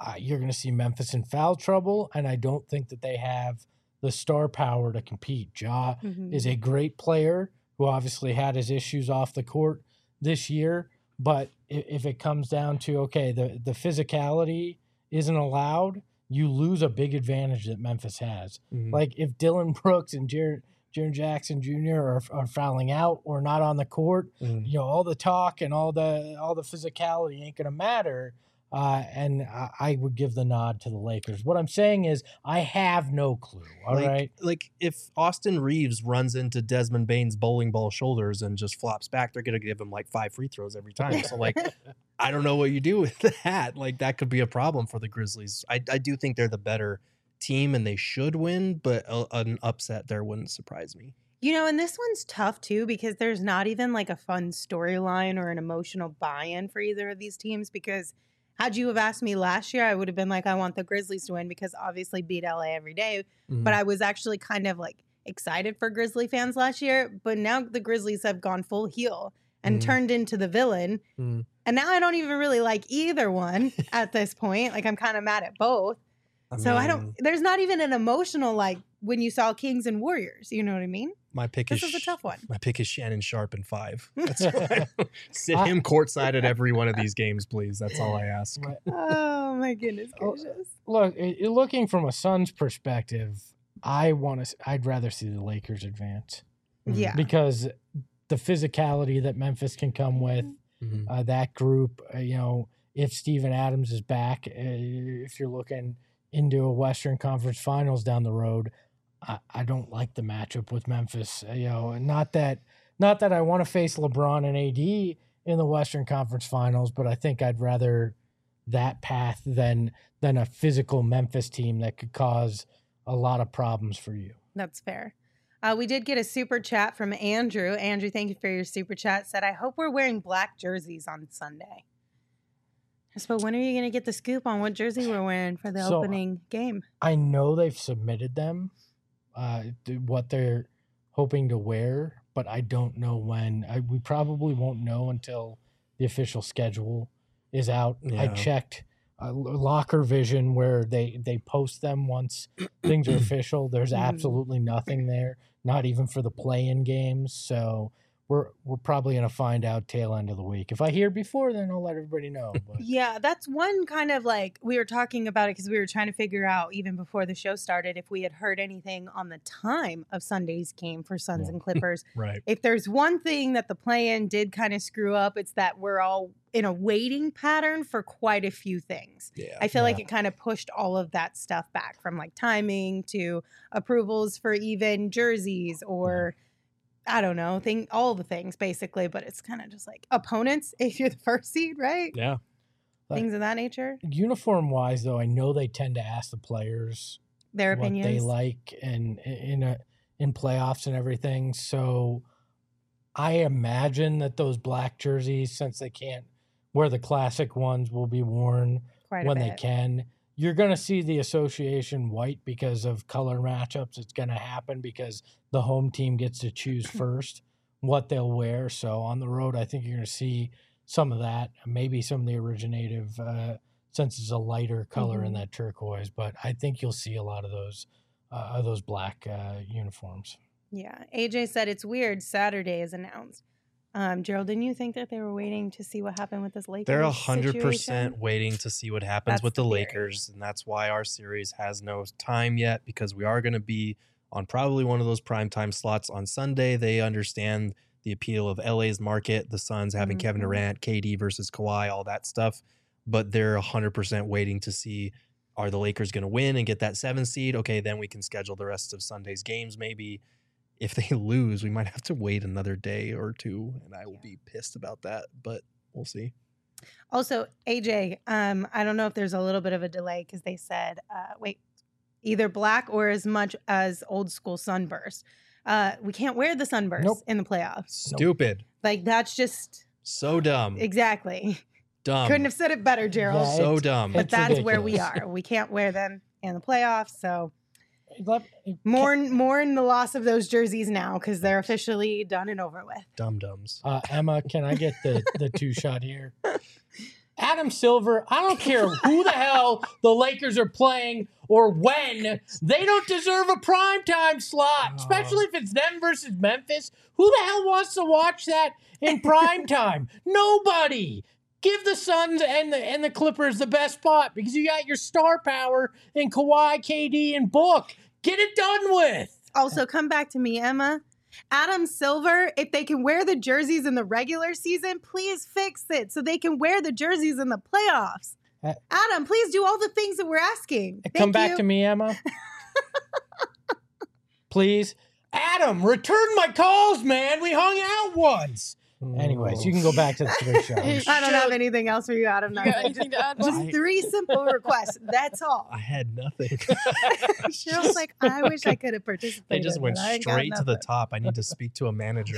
S4: uh, you're going to see Memphis in foul trouble, and I don't think that they have the star power to compete. Ja
S2: Mhm.
S4: is a great player who obviously had his issues off the court this year, but if, if it comes down to, okay, the, the physicality isn't allowed, you lose a big advantage that Memphis has.
S3: Mhm.
S4: Like if Dylan Brooks and Jared, Jaren Jackson Junior are, are fouling out or not on the court,
S3: Mhm.
S4: you know, all the talk and all the all the physicality ain't going to matter. Uh, and I, I would give the nod to the Lakers. What I'm saying is I have no clue. All
S3: like,
S4: right.
S3: like if Austin Reeves runs into Desmond Bane's bowling ball shoulders and just flops back, they're gonna give him like five free throws every time. So like, I don't know what you do with that. Like that could be a problem for the Grizzlies. I I do think they're the better team and they should win, but a, an upset there wouldn't surprise me.
S2: You know, and this one's tough too because there's not even like a fun storyline or an emotional buy-in for either of these teams because had you have asked me last year, I would have been like, I want the Grizzlies to win because obviously beat L A every day.
S3: Mhm.
S2: But I was actually kind of like excited for Grizzly fans last year. But now the Grizzlies have gone full heel and
S3: Mhm.
S2: turned into the villain.
S3: Mhm.
S2: And now I don't even really like either one at this point. Like I'm kind of mad at both.
S3: I
S2: so I
S3: mean,
S2: don't, there's not even an emotional like when you saw Kings and Warriors. You know what I mean?
S3: My pick
S2: This
S3: is
S2: is a tough one.
S3: My pick is Shannon Sharp in five. That's why I- sit
S4: I-
S3: him courtside at every one of these games, please. That's all I ask.
S2: Oh my goodness
S4: Oh,
S2: gracious.
S4: Look, i- i- looking from a Suns perspective, I want to. I'd rather see the Lakers advance
S2: Yeah.
S4: because the physicality that Memphis can come with,
S3: Mhm.
S4: uh, that group. Uh, you know, if Steven Adams is back, uh, if you're looking into a Western Conference Finals down the road, I, I don't like the matchup with Memphis. Uh, you know, not that not that I want to face LeBron and A D in the Western Conference Finals, but I think I'd rather that path than than a physical Memphis team that could cause a lot of problems for you.
S2: That's fair. Uh, we did get a super chat from Andrew. Andrew, thank you for your super chat. Said, I hope we're wearing black jerseys on Sunday. So when are you going to get the scoop on what jersey we're wearing for the
S4: So,
S2: opening game?
S4: I know they've submitted them, uh, th- what they're hoping to wear, but I don't know when. I, we probably won't know until the official schedule is out. I
S3: Yeah.
S4: checked uh, Locker Vision where they, they post them once things are official. There's
S2: Mhm.
S4: absolutely nothing there, not even for the play-in games. So we're we're probably going to find out tail end of the week. If I hear before, then I'll let everybody know. But
S2: Yeah, that's one kind of like we were talking about it because we were trying to figure out even before the show started if we had heard anything on the time of Sunday's game for Suns
S4: Yeah.
S2: and Clippers.
S3: Right.
S2: If there's one thing that the play-in did kind of screw up, it's that we're all in a waiting pattern for quite a few things.
S3: Yeah.
S2: I feel like
S4: Yeah.
S2: it kind of pushed all of that stuff back from like timing to approvals for even jerseys or I don't know, thing all the things basically, but it's kind of just like opponents if you're the first seed, right?
S3: Yeah.
S4: But-
S2: Things of that nature.
S4: uniform wise, though, I know they tend to ask the players
S2: Their
S4: what
S2: opinions.
S4: they like and in a in playoffs and everything. So I imagine that those black jerseys, since they can't wear the classic ones, will be worn
S2: Quite a
S4: when they
S2: bit.
S4: can. You're going to see the association white because of color matchups. It's going to happen because the home team gets to choose first what they'll wear. So on the road, I think you're going to see some of that, maybe some of the originative, uh, since it's a lighter color in
S2: Mhm.
S4: that turquoise. But I think you'll see a lot of those uh, of those black uh, uniforms.
S2: Yeah. A J said it's weird. Saturday is announced. Um, Gerald, didn't you think that they were waiting to see what happened with this Lakers?
S3: They're a hundred percent
S2: situation?
S3: waiting to see what happens
S2: That's
S3: with the
S2: the theory.
S3: Lakers, and that's why our series has no time yet because we are going to be on probably one of those primetime slots on Sunday. They understand the appeal of L A's market, the Suns having Kevin
S2: Mhm.
S3: Durant, K D versus Kawhi, all that stuff, but they're a hundred percent waiting to see are the Lakers going to win and get that seven seed? Okay, then we can schedule the rest of Sunday's games maybe. If they lose, we might have to wait another day or two, and I will be pissed about that, but we'll see.
S2: Also, A J, um, I don't know if there's a little bit of a delay because they said, uh, wait, either black or as much as old school sunburst. Uh, we can't wear the sunburst
S4: Nope.
S2: in the playoffs.
S3: Stupid.
S2: Like that's just
S3: So dumb.
S2: exactly.
S3: Dumb.
S2: Couldn't have said it better, Gerald.
S4: Yeah,
S3: so
S4: it's-
S3: dumb.
S2: but
S4: it's
S2: that's where we
S4: ridiculous.
S2: are. We can't wear them in the playoffs. So
S4: Let-
S2: mourn mourn the loss of those jerseys now because they're officially done and over with.
S3: Dumb dumbs.
S4: Uh, Emma, can I get the, the two shot here? Adam Silver, I don't care who the hell the Lakers are playing or when, they don't deserve a primetime slot, especially if it's them versus Memphis. Who the hell wants to watch that in primetime? Nobody. Give the Suns and the and the Clippers the best spot because you got your star power in Kawhi, K D, and Book. Get it done with.
S2: Also, come back to me, Emma. Adam Silver, if they can wear the jerseys in the regular season, please fix it so they can wear the jerseys in the playoffs.
S4: Uh,
S2: Adam, please do all the things that we're asking.
S4: Come
S2: Thank
S4: back
S2: you.
S4: to me, Emma. Please. Adam, return my calls, man. We hung out once. Anyways, you can go back to the three shows.
S2: I don't have anything else for you, Adam.
S1: You got anything to add?
S2: Just
S3: I-
S2: three simple requests. That's all.
S3: I had nothing.
S2: Cheryl's like, I wish I could have participated.
S3: They just went
S2: but I ain't got
S3: straight to the
S2: nothing.
S3: top. I need to speak to a manager.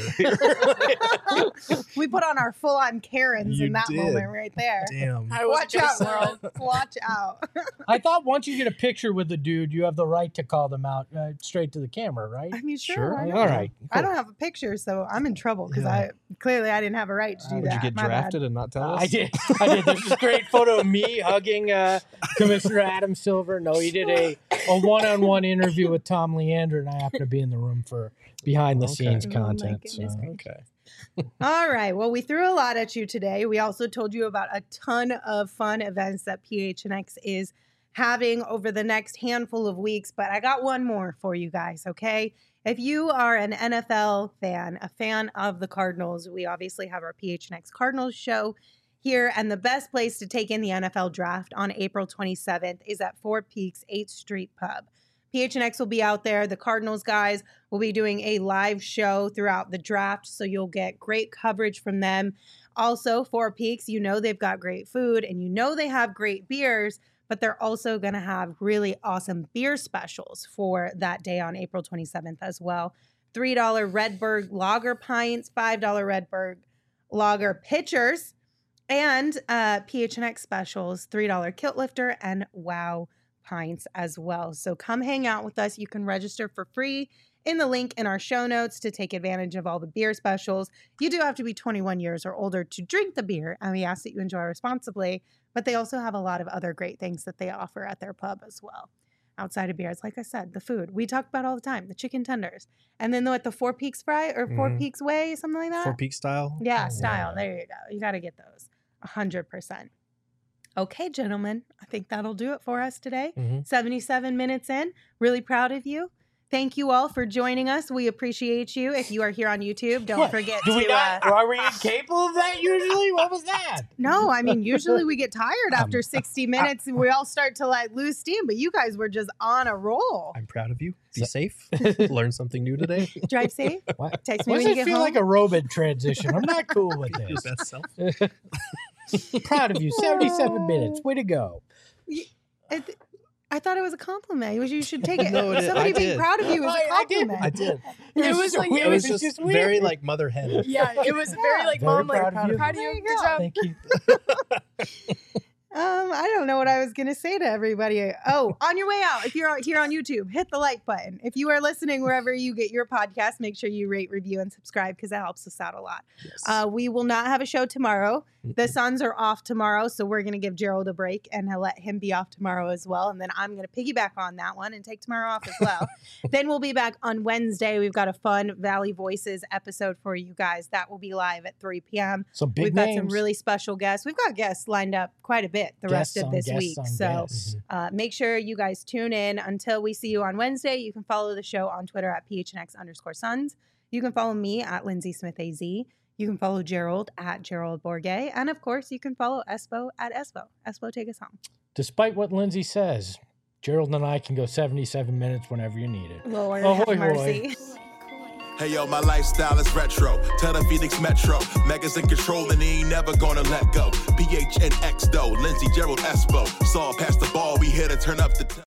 S2: We put on our full-on Karens
S3: You
S2: in that
S3: did.
S2: moment right there.
S3: Damn.
S1: I was
S2: Watch out, world. Watch out.
S4: I thought once you get a picture with the dude, you have the right to call them out uh, straight to the camera, right?
S2: I mean, sure.
S3: Sure.
S2: why
S4: All
S2: not?
S4: right.
S2: I don't have a picture, so I'm in trouble because
S3: Yeah.
S2: I clearly I didn't have a right to do
S3: Would
S2: that.
S3: you get
S2: My bad.
S3: drafted and not tell us?
S4: I did. I did. There's this great photo of me hugging uh, Commissioner Adam Silver. No, he did a, a one-on-one interview with Tom Leander, and I happened to be in the room for behind-the-scenes
S2: Okay. Oh, my
S4: content.
S2: goodness
S4: so.
S2: gracious.
S3: Okay.
S2: All right. Well, we threw a lot at you today. We also told you about a ton of fun events that P H N X is having over the next handful of weeks, but I got one more for you guys, okay? If you are an N F L fan, a fan of the Cardinals, we obviously have our P H N X Cardinals show here, and the best place to take in the N F L draft on April twenty-seventh is at Four Peaks eighth Street Pub. P H N X will be out there. The Cardinals guys will be doing a live show throughout the draft, so you'll get great coverage from them. Also, Four Peaks, you know they've got great food, and you know they have great beers, but they're also going to have really awesome beer specials for that day on April twenty-seventh as well. three dollar Redberg Lager pints, five dollar Redberg Lager pitchers, and uh, P H N X specials, three dollar Kilt Lifter and Wow pints as well. So come hang out with us. You can register for free in the link in our show notes to take advantage of all the beer specials. You do have to be twenty-one years or older to drink the beer, and we ask that you enjoy responsibly. But they also have a lot of other great things that they offer at their pub as well. Outside of beers, like I said, the food we talk about all the time, the chicken tenders, and then what the Four Peaks fry or Four
S3: Mhm.
S2: Peaks way, something like that.
S3: Four Peak style.
S2: Yeah,
S4: Yeah.
S2: style. There you go. You got to get those. A hundred percent. Okay, gentlemen, I think that'll do it for us today.
S3: Mhm.
S2: seventy-seven minutes in. Really proud of you. Thank you all for joining us. We appreciate you. If you are here on YouTube, don't
S4: What?
S2: forget
S4: Do we
S2: to.
S4: not?
S2: Uh,
S4: Are we incapable of that usually? What was that?
S2: no, I mean, usually we get tired after
S4: Um,
S2: sixty minutes and we all start to like lose steam, but you guys were just on a roll.
S3: I'm proud of you. Be
S4: So-
S3: safe. Learn something new today.
S2: Drive safe.
S4: What?
S2: Text me
S4: Why
S2: when
S4: does
S2: you
S4: it
S2: get
S4: feel
S2: home.
S4: like a robot transition? I'm not cool with
S3: Be your
S4: this.
S3: best self.
S4: Proud of you. seventy-seven minutes. Way to go.
S2: It, I thought it was a compliment. You should take it.
S3: No, it is.
S2: Somebody
S3: I
S2: being
S3: did.
S2: proud of you is a
S4: I- I did.
S2: compliment.
S3: I did.
S1: It was like-
S3: It was just
S4: weird.
S3: very like mother hen.
S1: Yeah, it was very like
S4: Very
S1: mom, like
S4: proud of you.
S1: proud of
S2: There
S1: you.
S2: you
S1: Good
S2: go.
S1: job.
S4: Thank you.
S2: Um, I don't know what I was gonna say to everybody. Oh, on your way out, if you're out here on YouTube, hit the like button. If you are listening wherever you get your podcast, make sure you rate, review, and subscribe because that helps us out a lot.
S3: Yes.
S2: Uh, we will not have a show tomorrow. The Suns are off tomorrow, so we're gonna give Gerald a break and uh, let him be off tomorrow as well. And then I'm gonna piggyback on that one and take tomorrow off as well. Then we'll be back on Wednesday. We've got a fun Valley Voices episode for you guys that will be live at three p.m.
S4: Some big
S2: We've
S4: names.
S2: got some really special guests. We've got guests lined up quite a bit the rest
S4: Guests
S2: of
S4: on
S2: this
S4: guests
S2: week.
S4: on
S2: So
S4: guests.
S2: uh, make sure you guys tune in. Until we see you on Wednesday, you can follow the show on Twitter at P H N X underscore Suns. You can follow me at Lindsay Smith A Z. You can follow Gerald at Gerald Bourget. And of course, you can follow Espo at Espo. Espo, take us home.
S4: Despite what Lindsay says, Gerald and I can go seventy-seven minutes whenever you need it.
S2: Lord
S4: Oh,
S2: have
S4: hoy, hoy.
S2: mercy.
S9: Hey yo, my lifestyle is retro. Tell the Phoenix Metro. Megas in control and he ain't never gonna let go. P H N X though. Lindsay, Gerald, Espo. Saw past the ball, we here to turn up the. T-